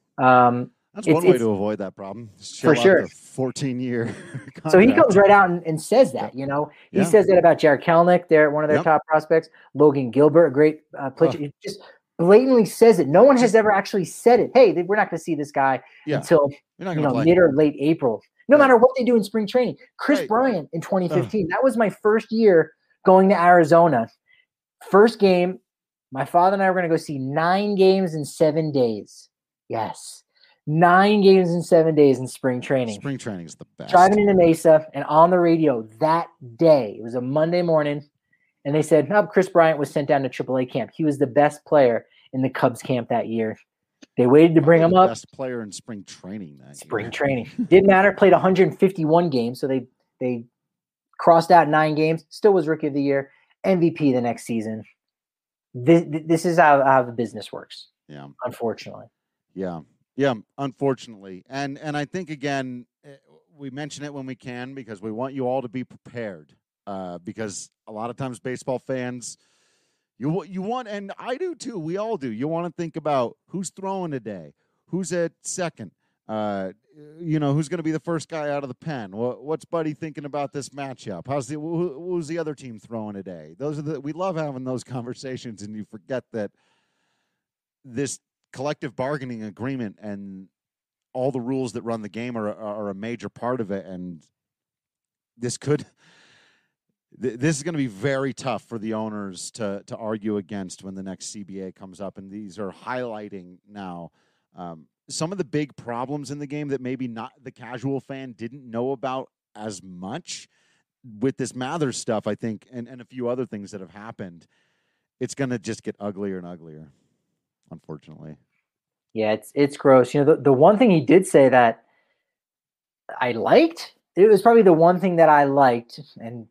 um, that's one way to avoid that problem. For sure, fourteen year. So he comes right out and, and says that. You know, he yeah. says that about Jared Kelenic. They're one of their yep. top prospects. Logan Gilbert, a great uh, pitcher. Oh. He just blatantly says it. No one has ever actually said it. Hey, we're not going to see this guy yeah. until you know play. mid or late April. No right. matter what they do in spring training. Chris right. Bryant in twenty fifteen. Oh. That was my first year going to Arizona. First game, my father and I were going to go see nine games in seven days. Yes. Nine games in seven days in spring training. Spring training is the best. Driving into Mesa, and on the radio that day, it was a Monday morning, and they said, no, Chris Bryant was sent down to triple A camp. He was the best player in the Cubs camp that year. They waited to bring him up. Best player in spring training that Spring year. training. Didn't matter. Played one hundred fifty-one games, so they they crossed out nine games. Still was Rookie of the Year. M V P the next season. This, this is how, how the business works. Yeah. Unfortunately. Yeah. Yeah. Unfortunately. And, and I think, again, we mention it when we can because we want you all to be prepared uh, because a lot of times baseball fans, you, you want, and I do too, we all do. You want to think about who's throwing today, who's at second, uh, you know, who's going to be the first guy out of the pen? What, what's Buddy thinking about this matchup? How's the who, who's the other team throwing today? Those are the we love having those conversations, and you forget that this collective bargaining agreement and all the rules that run the game are are a major part of it. And this could th- this is going to be very tough for the owners to to argue against when the next C B A comes up. And these are highlighting now. Um, some of the big problems in the game that maybe not the casual fan didn't know about as much with this Mathers stuff, I think, and, and a few other things that have happened. It's going to just get uglier and uglier, unfortunately. Yeah, it's it's gross. You know, the, the one thing he did say that I liked, it was probably the one thing that I liked, and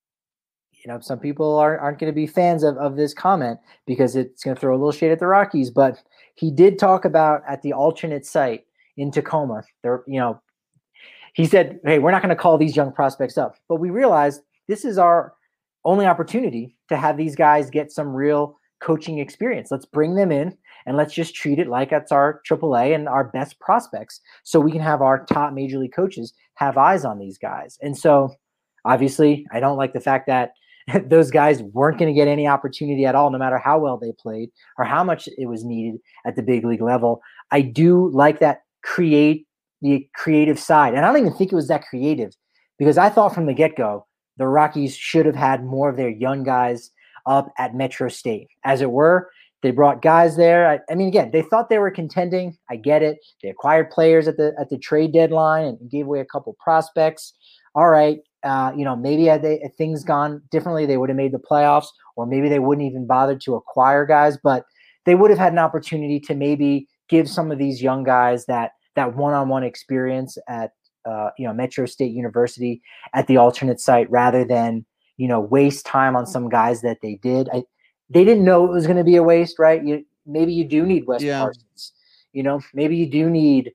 you know, some people aren't, aren't going to be fans of, of this comment because it's going to throw a little shade at the Rockies, but he did talk about at the alternate site in Tacoma, there, you know, he said, hey, we're not going to call these young prospects up, but we realized this is our only opportunity to have these guys get some real coaching experience. Let's bring them in and let's just treat it like it's our triple A and our best prospects so we can have our top major league coaches have eyes on these guys. And so obviously I don't like the fact that those guys weren't going to get any opportunity at all, no matter how well they played or how much it was needed at the big league level. I do like that create the creative side. And I don't even think it was that creative because I thought from the get-go, the Rockies should have had more of their young guys up at Metro State. As it were, they brought guys there. I, I mean, again, they thought they were contending. I get it. They acquired players at the at the trade deadline and gave away a couple prospects. All right. Uh, you know, maybe had, they, had things gone differently, they would have made the playoffs, or maybe they wouldn't even bother to acquire guys, but they would have had an opportunity to maybe give some of these young guys that that one-on-one experience at uh, you know Metro State University at the alternate site, rather than you know waste time on some guys that they did. I, they didn't know it was going to be a waste, right? You, maybe you do need Wes yeah. Parsons. You know, maybe you do need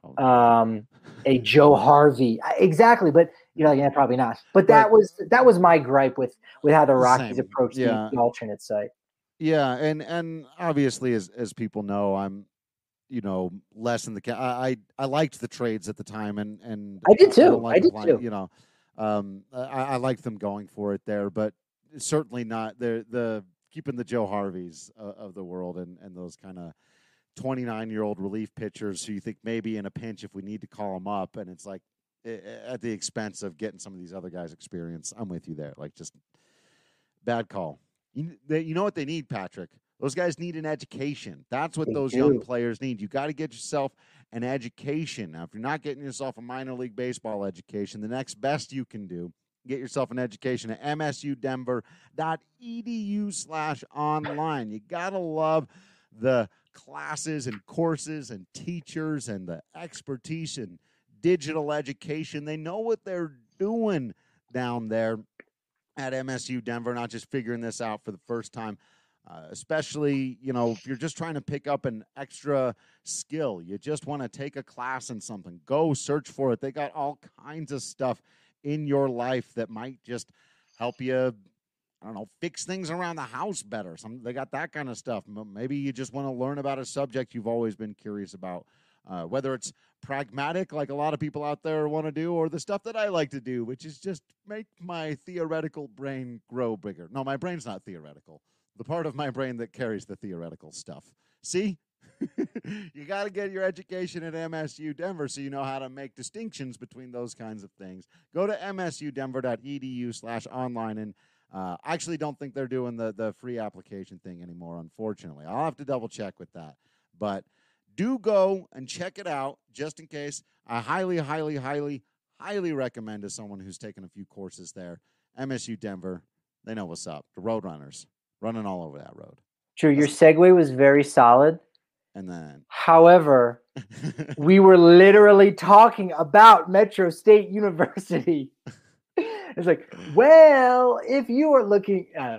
um, a Joe Harvey. Exactly, but. You know, yeah, probably not. But that but, was that was my gripe with with how the Rockies same. approached yeah. the, the alternate site. Yeah, and and obviously, as as people know, I'm, you know, less in the. I I, I liked the trades at the time, and and I did too. I, like I did applying, too. You know, um, I, I liked them going for it there, but certainly not the the keeping the Joe Harveys uh, of the world and and those kind of twenty-nine year old relief pitchers who you think maybe in a pinch if we need to call them up, and it's like. At the expense of getting some of these other guys experience. I'm with you there. Like, just bad call. You, they, you know what they need, Patrick? Those guys need an education. That's what they those do. young players need. You got to get yourself an education. Now, if you're not getting yourself a minor league baseball education, the next best you can do Get yourself an education at m s u denver dot e d u slash online. You got to love the classes and courses and teachers and the expertise in digital education. They know what they're doing down there at M S U Denver, not just figuring this out for the first time. Uh, especially, you know, if you're just trying to pick up an extra skill, you just want to take a class in something, go search for it. They got all kinds of stuff in your life that might just help you, I don't know, fix things around the house better. Some, they got that kind of stuff. Maybe you just want to learn about a subject you've always been curious about, uh, whether it's pragmatic, like a lot of people out there want to do, or the stuff that I like to do, which is just make my theoretical brain grow bigger. No, my brain's not theoretical. The part of my brain that carries the theoretical stuff. See? You got to get your education at M S U Denver so you know how to make distinctions between those kinds of things. Go to m s u denver dot e d u slash online, and uh, I actually don't think they're doing the, the free application thing anymore, unfortunately. I'll have to double check with that. But do go and check it out just in case. I highly, highly, highly, highly recommend to someone who's taken a few courses there. M S U Denver, they know what's up. The Roadrunners running all over that road. True, your segue was very solid. And then, however, we were literally talking about Metro State University. It's like, well, if you are looking, uh,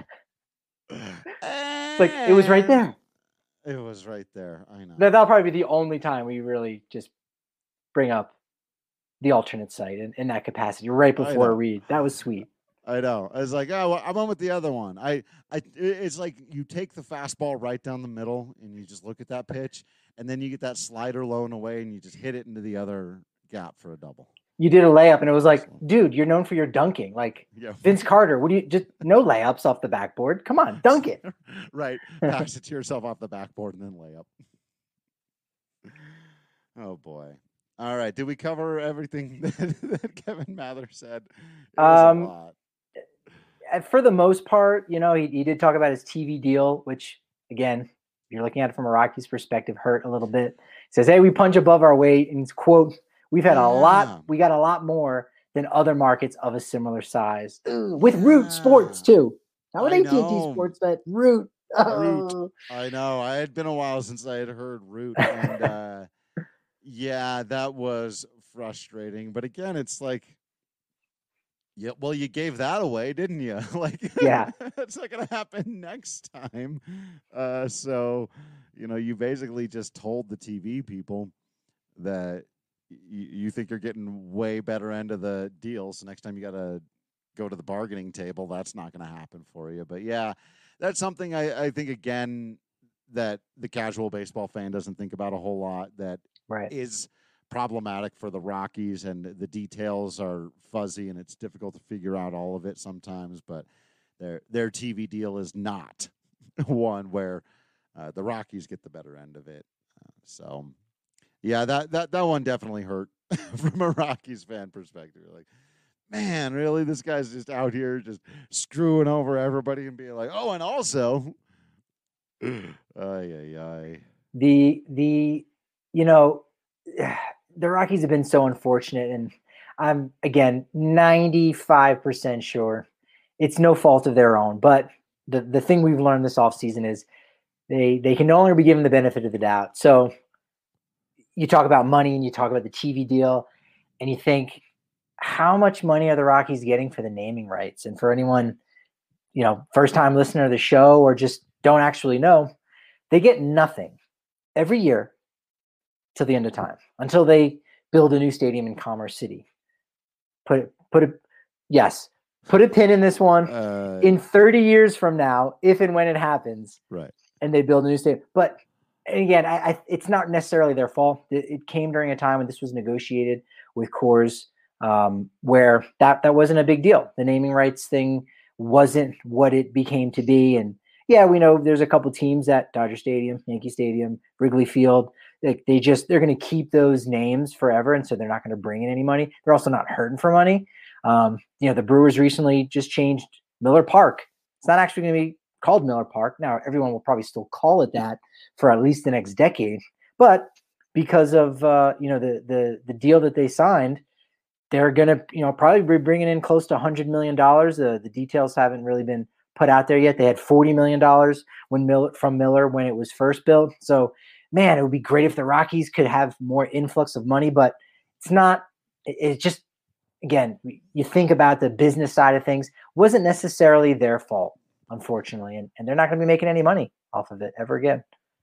it's like it was right there. It was right there. I know. That, that'll probably be the only time we really just bring up the alternate site in, in that capacity right before a read. That was sweet. I know. I was like, oh, well, I'm on with the other one. I, I, it's like you take the fastball right down the middle and you just look at that pitch, and then you get that slider low and away, and you just hit it into the other gap for a double. You did a layup, and it was like, dude, you're known for your dunking. Like yeah. Vince Carter, what do you just no layups off the backboard? Come on, dunk it. Right. Pass it to yourself off the backboard and then layup. Oh, boy. All right. Did we cover everything that, that Kevin Mather said? It was um, a lot. For the most part, you know, he, he did talk about his T V deal, which, again, if you're looking at it from a Rockies perspective, hurt a little bit. He says, hey, we punch above our weight. And quote, we've had yeah. a lot, we got a lot more than other markets of a similar size. Ugh, with Root yeah. Sports, too. Not with A T and T Sports, but Root. Oh. Root. I know. I had been a while since I had heard Root. And, uh, yeah, that was frustrating. But, again, it's like, yeah, well, you gave that away, didn't you? Like, yeah, that's not going to happen next time. Uh, so, you know, you basically just told the T V people that y- you think you're getting way better end of the deal. So next time you got to go to the bargaining table, that's not going to happen for you. But yeah, that's something I, I think, again, that the casual baseball fan doesn't think about a whole lot. That right. is problematic for the Rockies, and the details are fuzzy, and it's difficult to figure out all of it sometimes. But their their T V deal is not one where uh, the Rockies get the better end of it. Uh, so, yeah, that that that one definitely hurt from a Rockies fan perspective. You're like, man, really, this guy's just out here just screwing over everybody and being like, oh, and also, ay ay ay. The the you know. The Rockies have been so unfortunate, and I'm, again, ninety-five percent sure it's no fault of their own. But the, the thing we've learned this offseason is they, they can no longer be given the benefit of the doubt. So you talk about money and you talk about the T V deal, and you think, how much money are the Rockies getting for the naming rights? And for anyone, you know, first-time listener of the show or just don't actually know, they get nothing every year till the end of time, until they build a new stadium in Commerce City. Put it, put it, yes, put a pin in this one. Uh, in thirty years from now, if and when it happens, right, and they build a new stadium. But again, I, I, it's not necessarily their fault. It, it came during a time when this was negotiated with Coors, um, where that that wasn't a big deal. The naming rights thing wasn't what it became to be. And yeah, we know there's a couple teams at Dodger Stadium, Yankee Stadium, Wrigley Field. They, they just, they're going to keep those names forever. And so they're not going to bring in any money. They're also not hurting for money. Um, you know, the Brewers recently just changed Miller Park. It's not actually going to be called Miller Park. Now, everyone will probably still call it that for at least the next decade. But because of, uh, you know, the, the, the deal that they signed, they're going to, you know, probably be bringing in close to one hundred million dollars. The, the details haven't really been put out there yet. They had forty million dollars when Miller, from Miller when it was first built. So, man, it would be great if the Rockies could have more influx of money, but it's not – it's just – again, you think about the business side of things, wasn't necessarily their fault, unfortunately, and, and they're not going to be making any money off of it ever again.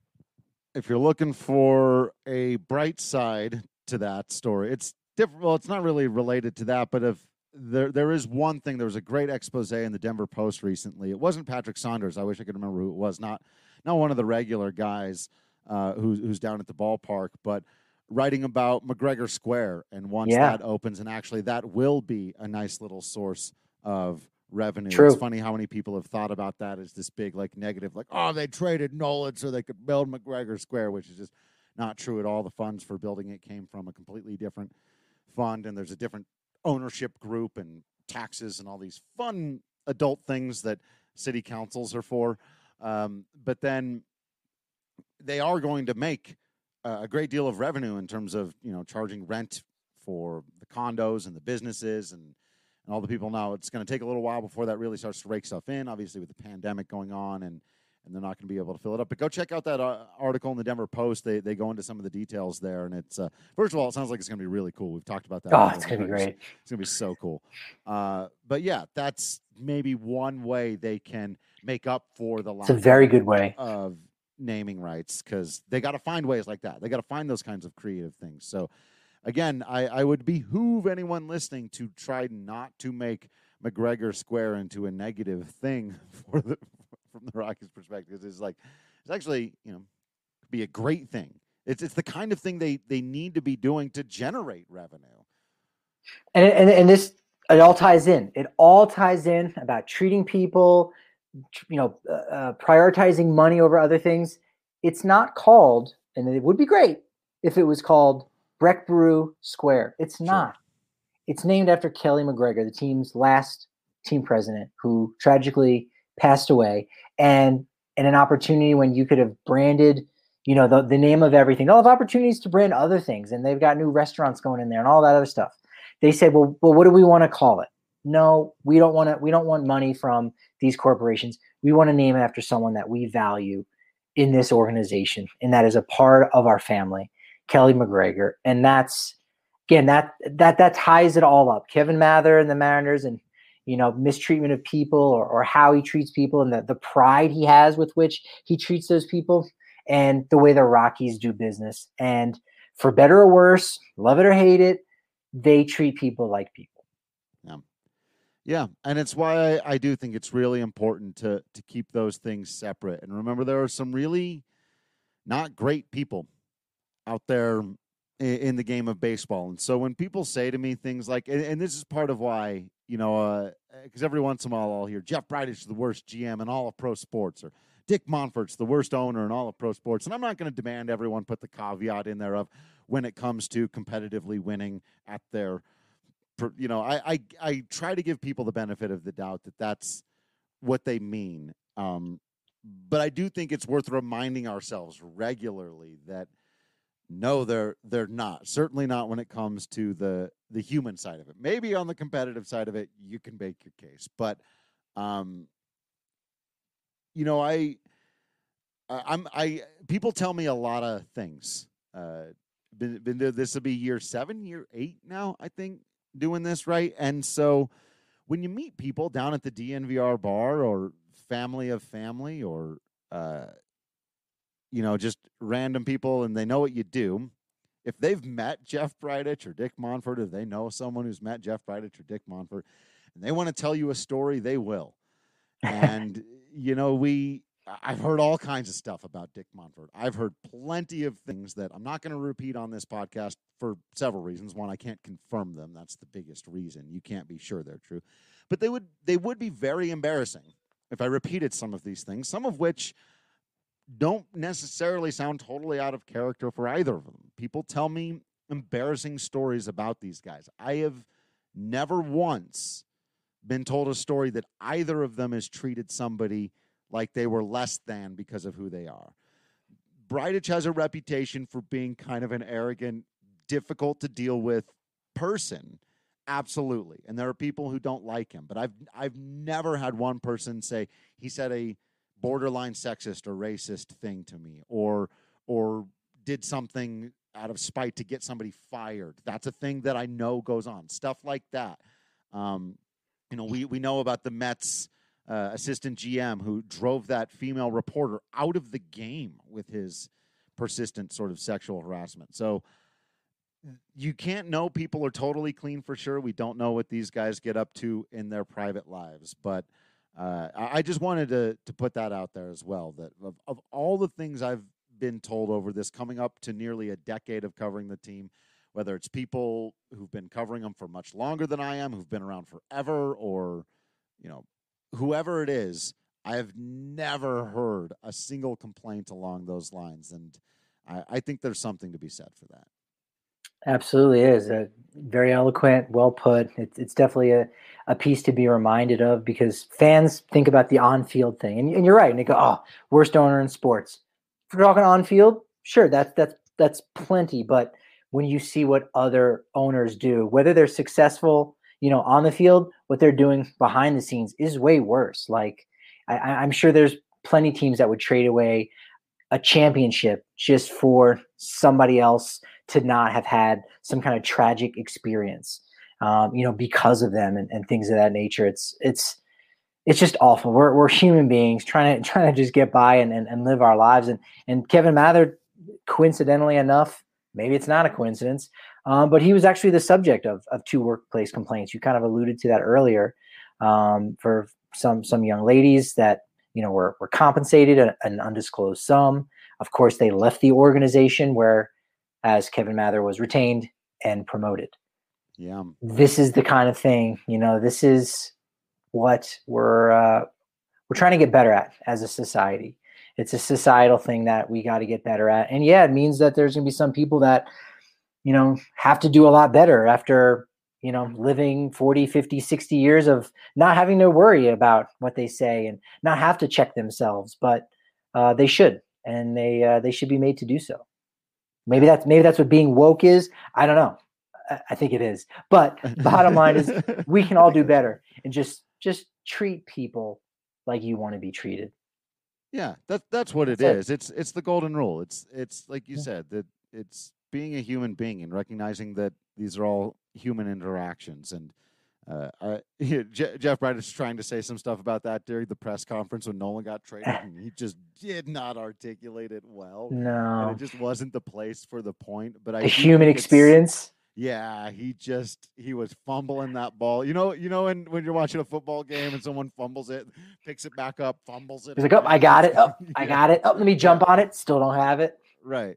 If you're looking for a bright side to that story, it's different. Well, it's not really related to that, but if there there is one thing, there was a great expose in the Denver Post recently. It wasn't Patrick Saunders. I wish I could remember who it was. Not not one of the regular guys uh, who's who's down at the ballpark, but writing about McGregor Square, and once Yeah. that opens, and actually that will be a nice little source of revenue. True. It's funny how many people have thought about that as this big, like, negative, like, oh, they traded Nolan so they could build McGregor Square, which is just not true at all. The funds for building it came from a completely different fund, and there's a different ownership group and taxes and all these fun adult things that city councils are for. Um, but then they are going to make a great deal of revenue in terms of, you know, charging rent for the condos and the businesses and, and all the people. Now, it's going to take a little while before that really starts to rake stuff in, obviously with the pandemic going on, and, and they're not going to be able to fill it up. But go check out that uh, article in the Denver Post. They they go into some of the details there, and it's, uh, first of all, it sounds like it's going to be really cool. We've talked about that. Oh, it's going to be great. It's going to be so cool. Uh, but, yeah, that's maybe one way they can make up for the lack It's a very good way of naming rights, because they got to find ways like that. They got to find those kinds of creative things. So again, I, I would behoove anyone listening to try not to make McGregor Square into a negative thing for the from the Rockies' perspective. It's like, it's actually, you know, be a great thing. It's it's the kind of thing they they need to be doing to generate revenue. And, and, and this, it all ties in. It all ties in about treating people, you know, uh, prioritizing money over other things. It's not called, and it would be great if it was called Breck Brew Square. It's not. Sure. It's named after Kelly McGregor, the team's last team president, who tragically passed away. And and an opportunity when you could have branded, you know, the, the name of everything. They'll have opportunities to brand other things, and they've got new restaurants going in there and all that other stuff. They said, well, well, what do we want to call it? No, we don't want to. We don't want money from these corporations. We want to name it after someone that we value in this organization, and that is a part of our family, Kelly McGregor. And that's, again, that that that ties it all up. Kevin Mather and the Mariners, and, you know, mistreatment of people, or, or how he treats people, and the, the pride he has with which he treats those people, and the way the Rockies do business. And for better or worse, love it or hate it, they treat people like people. Yeah. Yeah, and it's why I, I do think it's really important to to keep those things separate. And remember, there are some really not great people out there in, in the game of baseball. And so when people say to me things like, and, and this is part of why, you know, because uh, every once in a while I'll hear Jeff Bridich is the worst G M in all of pro sports, or Dick Monfort's the worst owner in all of pro sports. And I'm not going to demand everyone put the caveat in there of when it comes to competitively winning at their, you know, I, I, I try to give people the benefit of the doubt that that's what they mean. Um, but I do think it's worth reminding ourselves regularly that no, they're they're not. Certainly not when it comes to the the human side of it. Maybe on the competitive side of it, you can make your case. But, um, you know, I, I'm I people tell me a lot of things. Uh, been been this will be year seven, year eight now, I think, doing this, right? And so when you meet people down at the D N V R bar, or family of family, or uh, you know, just random people, and they know what you do, if they've met Jeff Bridich or Dick Monfort, or they know someone who's met Jeff Bridich or Dick Monfort, and they want to tell you a story, they will. And you know, we I've heard all kinds of stuff about Dick Monfort. I've heard plenty of things that I'm not going to repeat on this podcast for several reasons. One, I can't confirm them. That's the biggest reason. You can't be sure they're true. But they would they would be very embarrassing if I repeated some of these things, some of which don't necessarily sound totally out of character for either of them. People tell me embarrassing stories about these guys. I have never once been told a story that either of them has treated somebody like they were less than because of who they are. Bridich has a reputation for being kind of an arrogant, difficult to deal with person. Absolutely. And there are people who don't like him, but I've I've never had one person say he said a borderline sexist or racist thing to me, or or did something out of spite to get somebody fired. That's a thing that I know goes on. Stuff like that. Um, you know, we we know about the Mets uh, assistant G M who drove that female reporter out of the game with his persistent sort of sexual harassment. So you can't know people are totally clean for sure. We don't know what these guys get up to in their private lives. But uh, I just wanted to to put that out there as well, that of, of all the things I've been told over this coming up to nearly a decade of covering the team, whether it's people who've been covering them for much longer than I am, who've been around forever, or, you know, whoever it is, I have never heard a single complaint along those lines. And I, I think there's something to be said for that. Absolutely is. Uh, very eloquent, well put. It's, it's definitely a, a piece to be reminded of, because fans think about the on-field thing. And, and you're right. And they go, oh, worst owner in sports. If we're talking on-field, sure, that's, that's, that's plenty. But when you see what other owners do, whether they're successful, you know, on the field, what they're doing behind the scenes is way worse. Like, I, I'm sure there's plenty of teams that would trade away a championship just for somebody else to not have had some kind of tragic experience, um, you know, because of them and, and things of that nature. It's, it's, it's just awful. We're, we're human beings trying to, trying to just get by and, and, and live our lives. And, and Kevin Mather, coincidentally enough, maybe it's not a coincidence, um, but he was actually the subject of, of two workplace complaints. You kind of alluded to that earlier, um, for some, some young ladies that, you know, were, were compensated an, an undisclosed sum. Of course, they left the organization where, as Kevin Mather was retained and promoted. Yeah. This is the kind of thing, you know, this is what we're, uh, we're trying to get better at as a society. It's a societal thing that we got to get better at. And yeah, it means that there's going to be some people that, you know, have to do a lot better after, you know, living forty, fifty, sixty years of not having to worry about what they say and not have to check themselves, but uh, they should, and they, uh, they should be made to do so. Maybe that's, maybe that's what being woke is. I don't know. I, I think it is, but bottom line is we can all do better and just, just treat people like you want to be treated. Yeah, that, that's what it That's is. it. It's it's the golden rule. It's it's like you Yeah. said, that it's being a human being and recognizing that these are all human interactions. And uh, I, Je- Jeff Bryant is trying to say some stuff about that during the press conference when Nolan got traded, and he just did not articulate it well. And No, it just wasn't the place for the point. But I the do human think it's- experience. Yeah, he just he was fumbling that ball. You know, you know when, when you're watching a football game and someone fumbles it, picks it back up, fumbles it. He's like, oh, I got it. Oh, I Yeah. got it. Oh, let me jump on it. Still don't have it. Right.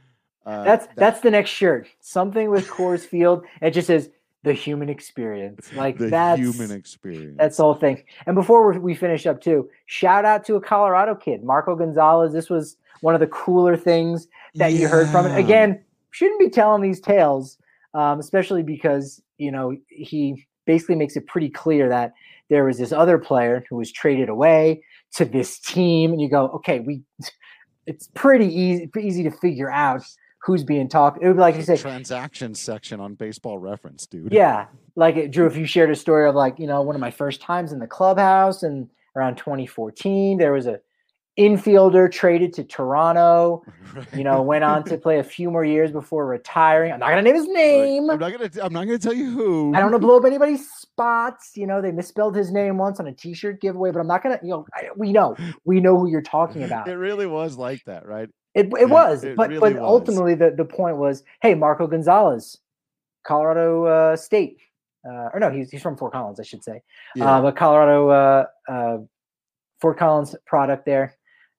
Uh, That's that- that's the next shirt. Something with Coors Field. It just says the human experience. Like the that's human experience. that's the whole thing. And before we we finish up too, shout out to a Colorado kid, Marco Gonzalez. This was one of the cooler things that you heard from it. Yeah. Again, shouldn't be telling these tales, um, especially because, you know, he basically makes it pretty clear that there was this other player who was traded away to this team. And you go, okay, we, it's pretty easy, pretty easy to figure out who's being talked. It would be like you say, Transactions section on Baseball Reference, dude. yeah. Like it, Drew, if you shared a story of like, you know, one of my first times in the clubhouse and around twenty fourteen, there was a infielder traded to Toronto, Right. you know, went on to play a few more years before retiring. I'm not going to name his name. I'm not gonna. I'm not gonna tell you who. I don't want to blow up anybody's spots. You know, they misspelled his name once on a T-shirt giveaway, but I'm not going to, you know, I, we know, we know who you're talking about. It really was like that, right? It, it was, It but really but was. ultimately the, the point was, hey, Marco Gonzalez, Colorado uh, State, uh, or no, he's he's from Fort Collins, I should say, Yeah. uh, but Colorado uh, uh, Fort Collins product there,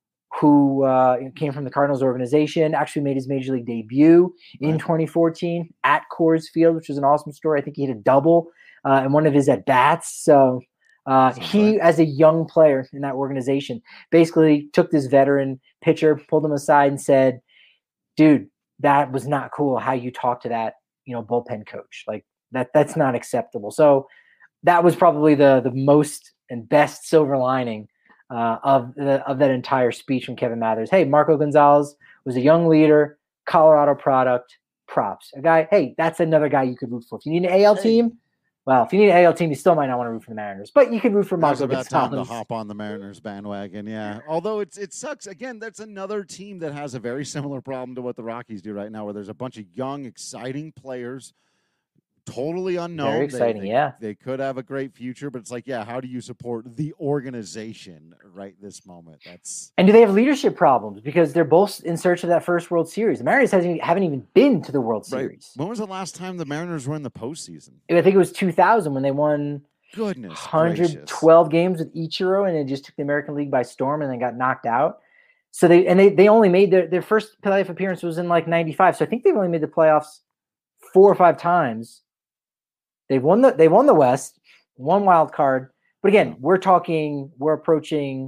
who uh, came from the Cardinals organization, actually made his major league debut in Right. twenty fourteen at Coors Field, which was an awesome story. I think he hit a double uh, in one of his at bats. So. Uh, Sounds he, right. as a young player in that organization, basically took this veteran pitcher, pulled him aside, and said, "Dude, that was not cool. How you talk to that, you know, bullpen coach, like that. That's not acceptable." So that was probably the the most and best silver lining uh, of the of that entire speech from Kevin Mathers. Hey, Marco Gonzalez was a young leader, Colorado product. Props, a guy. Hey, that's another guy you could root for. If you need an A L Hey. team. Well, if you need an A L team, you still might not want to root for the Mariners, but you can root for Now's Marco about time to Gonzalez. hop on the Mariners bandwagon, yeah. Although it's it sucks. Again, that's another team that has a very similar problem to what the Rockies do right now, where there's a bunch of young, exciting players, totally unknown. Very They- exciting, they, yeah. They could have a great future, but it's like, yeah, how do you support the organization right this moment? That's And do they have leadership problems? Because they're both in search of that first World Series. The Mariners hasn't, haven't even been to the World right. Series. When was the last time the Mariners were in the postseason? I think it was two thousand when they won Goodness one hundred twelve games with Ichiro, and it just took the American League by storm and then got knocked out. So they and they, they only made their, their first playoff appearance was in like ninety-five. So I think they've only made the playoffs four or five times. They've won the they won the West, one wild card. But again, we're talking we're approaching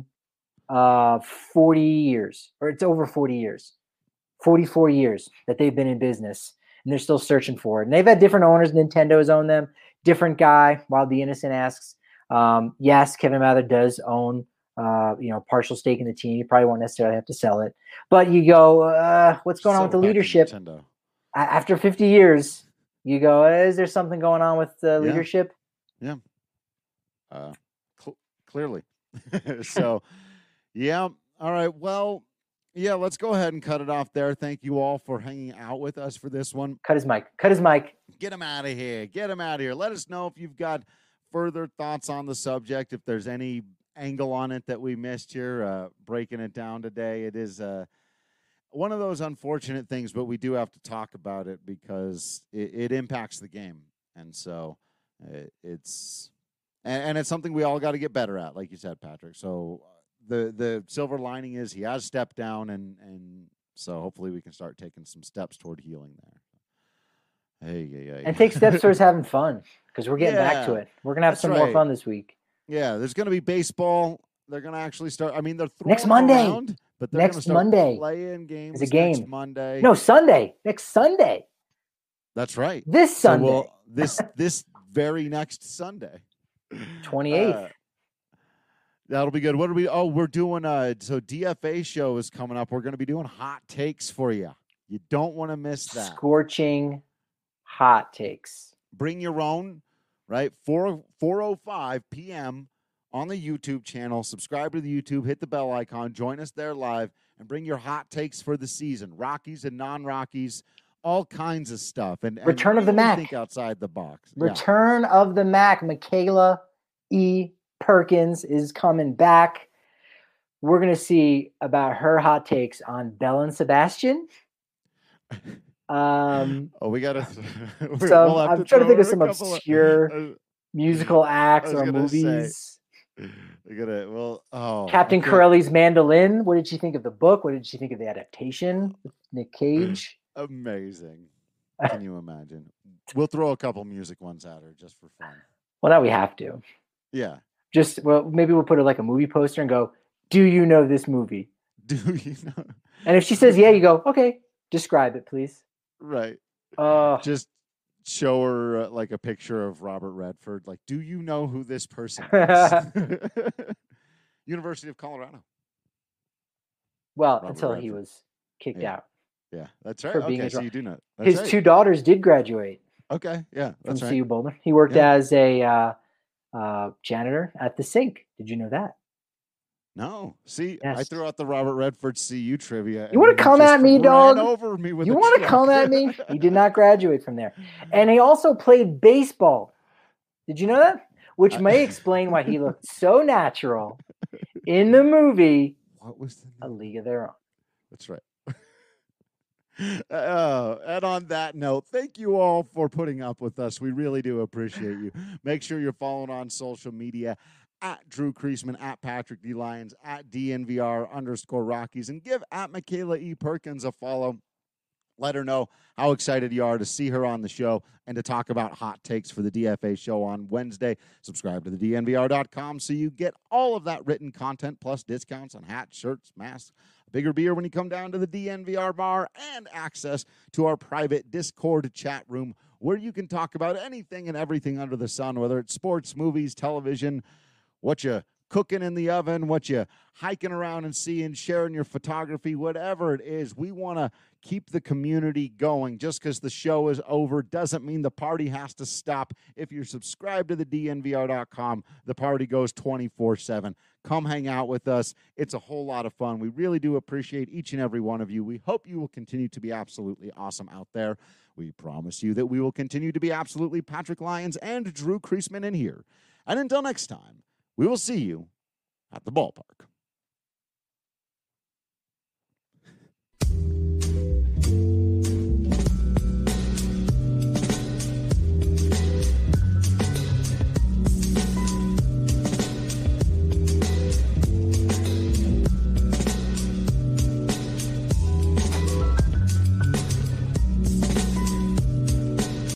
uh forty years, or it's over forty years. forty-four years that they've been in business, and they're still searching for it. And they've had different owners. Nintendo has owned them. Different guy. Wild the Innocent asks, um, yes, Kevin Mather does own, uh, you know, partial stake in the team. You probably won't necessarily have to sell it, but you go, uh, what's going on with the leadership? Nintendo. A- After fifty years, you go, is there something going on with the Yeah. leadership? Yeah. Uh, cl- clearly. So, yeah. All right. Well, yeah, let's go ahead and cut it off there. Thank you all for hanging out with us for this one. Cut his mic. Cut his mic. Get him out of here. Get him out of here. Let us know if you've got further thoughts on the subject, if there's any angle on it that we missed here, uh, breaking it down today. It is uh, one of those unfortunate things, but we do have to talk about it because it, it impacts the game. And so it, it's and, and it's something we all got to get better at, like you said, Patrick. So the the silver lining is he has stepped down, and, and so hopefully we can start taking some steps toward healing there. Hey, yeah, yeah. And take steps towards having fun, because we're getting back to Yeah, it. We're going to have that's some more right. fun this week. Yeah, there's going to be baseball. They're going to actually start. I mean, they're throwing Next Monday. around, but they're Next going to start Monday. playing games It's a game. next Monday. No, Sunday. Next Sunday. That's right. This So Sunday. we'll, this this very next Sunday, twenty-eighth. Uh, that'll be good. What are we? Oh, we're doing. Uh, so D F A show is coming up. We're going to be doing hot takes for you. You don't want to miss that. Scorching hot takes. Bring your own, right? four oh five p.m. on the YouTube channel. Subscribe to the YouTube, hit the bell icon, join us there live, and bring your hot takes for the season. Rockies and non-Rockies, all kinds of stuff. And, and Return of the really Mac. think outside the box. Yeah. Return of the Mac. Michaela E. Perkins is coming back. We're going to see about her hot takes on Belle and Sebastian. Um, Oh, we got to. some, I'm trying to think of some obscure obscure musical acts I was or gonna say, movies. We got to. Well, oh. Captain I think- Corelli's Mandolin. What did she think of the book? What did she think of the adaptation with Nick Cage? Amazing. Can you imagine? We'll throw a couple music ones at her just for fun. Well, now we have to. Yeah. Just well, maybe we'll put it like a movie poster and go, "Do you know this movie?" Do you know? And if she says yeah, you go, "Okay, describe it, please." Right. Uh, Just show her uh, like a picture of Robert Redford. Like, do you know who this person is? University of Colorado. well, Robert until he Redford. was kicked Yeah. out. Yeah, that's right. For being Okay, a so dro- you do know. That's His right. two daughters did graduate Okay, yeah, from that's C right. U Boulder. He worked Yeah. as a uh, uh, janitor at the sink. Did you know that? No, see, I Yes. threw out the Robert Redford C U trivia. You wanna and come just at me, ran dog? Over me with You a want to truck. come at me? He did not graduate from there. And he also played baseball. Did you know that? Which I- may explain why he looked so natural in the movie What was the A name? League of Their Own. That's right. Uh, and on that note, thank you all for putting up with us. We really do appreciate you. Make sure you're following on social media at Drew Creasman, at Patrick D. Lyons, at D N V R underscore Rockies, and give at Michaela E. Perkins a follow. Let her know how excited you are to see her on the show and to talk about hot takes for the D F A show on Wednesday. Subscribe to the D N V R dot com so you get all of that written content plus discounts on hats, shirts, masks, a bigger beer when you come down to the D N V R bar, and access to our private Discord chat room where you can talk about anything and everything under the sun, whether it's sports, movies, television, what you cooking in the oven, what you hiking around and seeing, sharing your photography, whatever it is. We want to keep the community going. Just because the show is over doesn't mean the party has to stop. If you're subscribed to the D N V R dot com, the party goes twenty-four seven. Come hang out with us. It's a whole lot of fun. We really do appreciate each and every one of you. We hope you will continue to be absolutely awesome out there. We promise you that we will continue to be absolutely Patrick Lyons and Drew Creasman in here. And until next time, we will see you at the ballpark.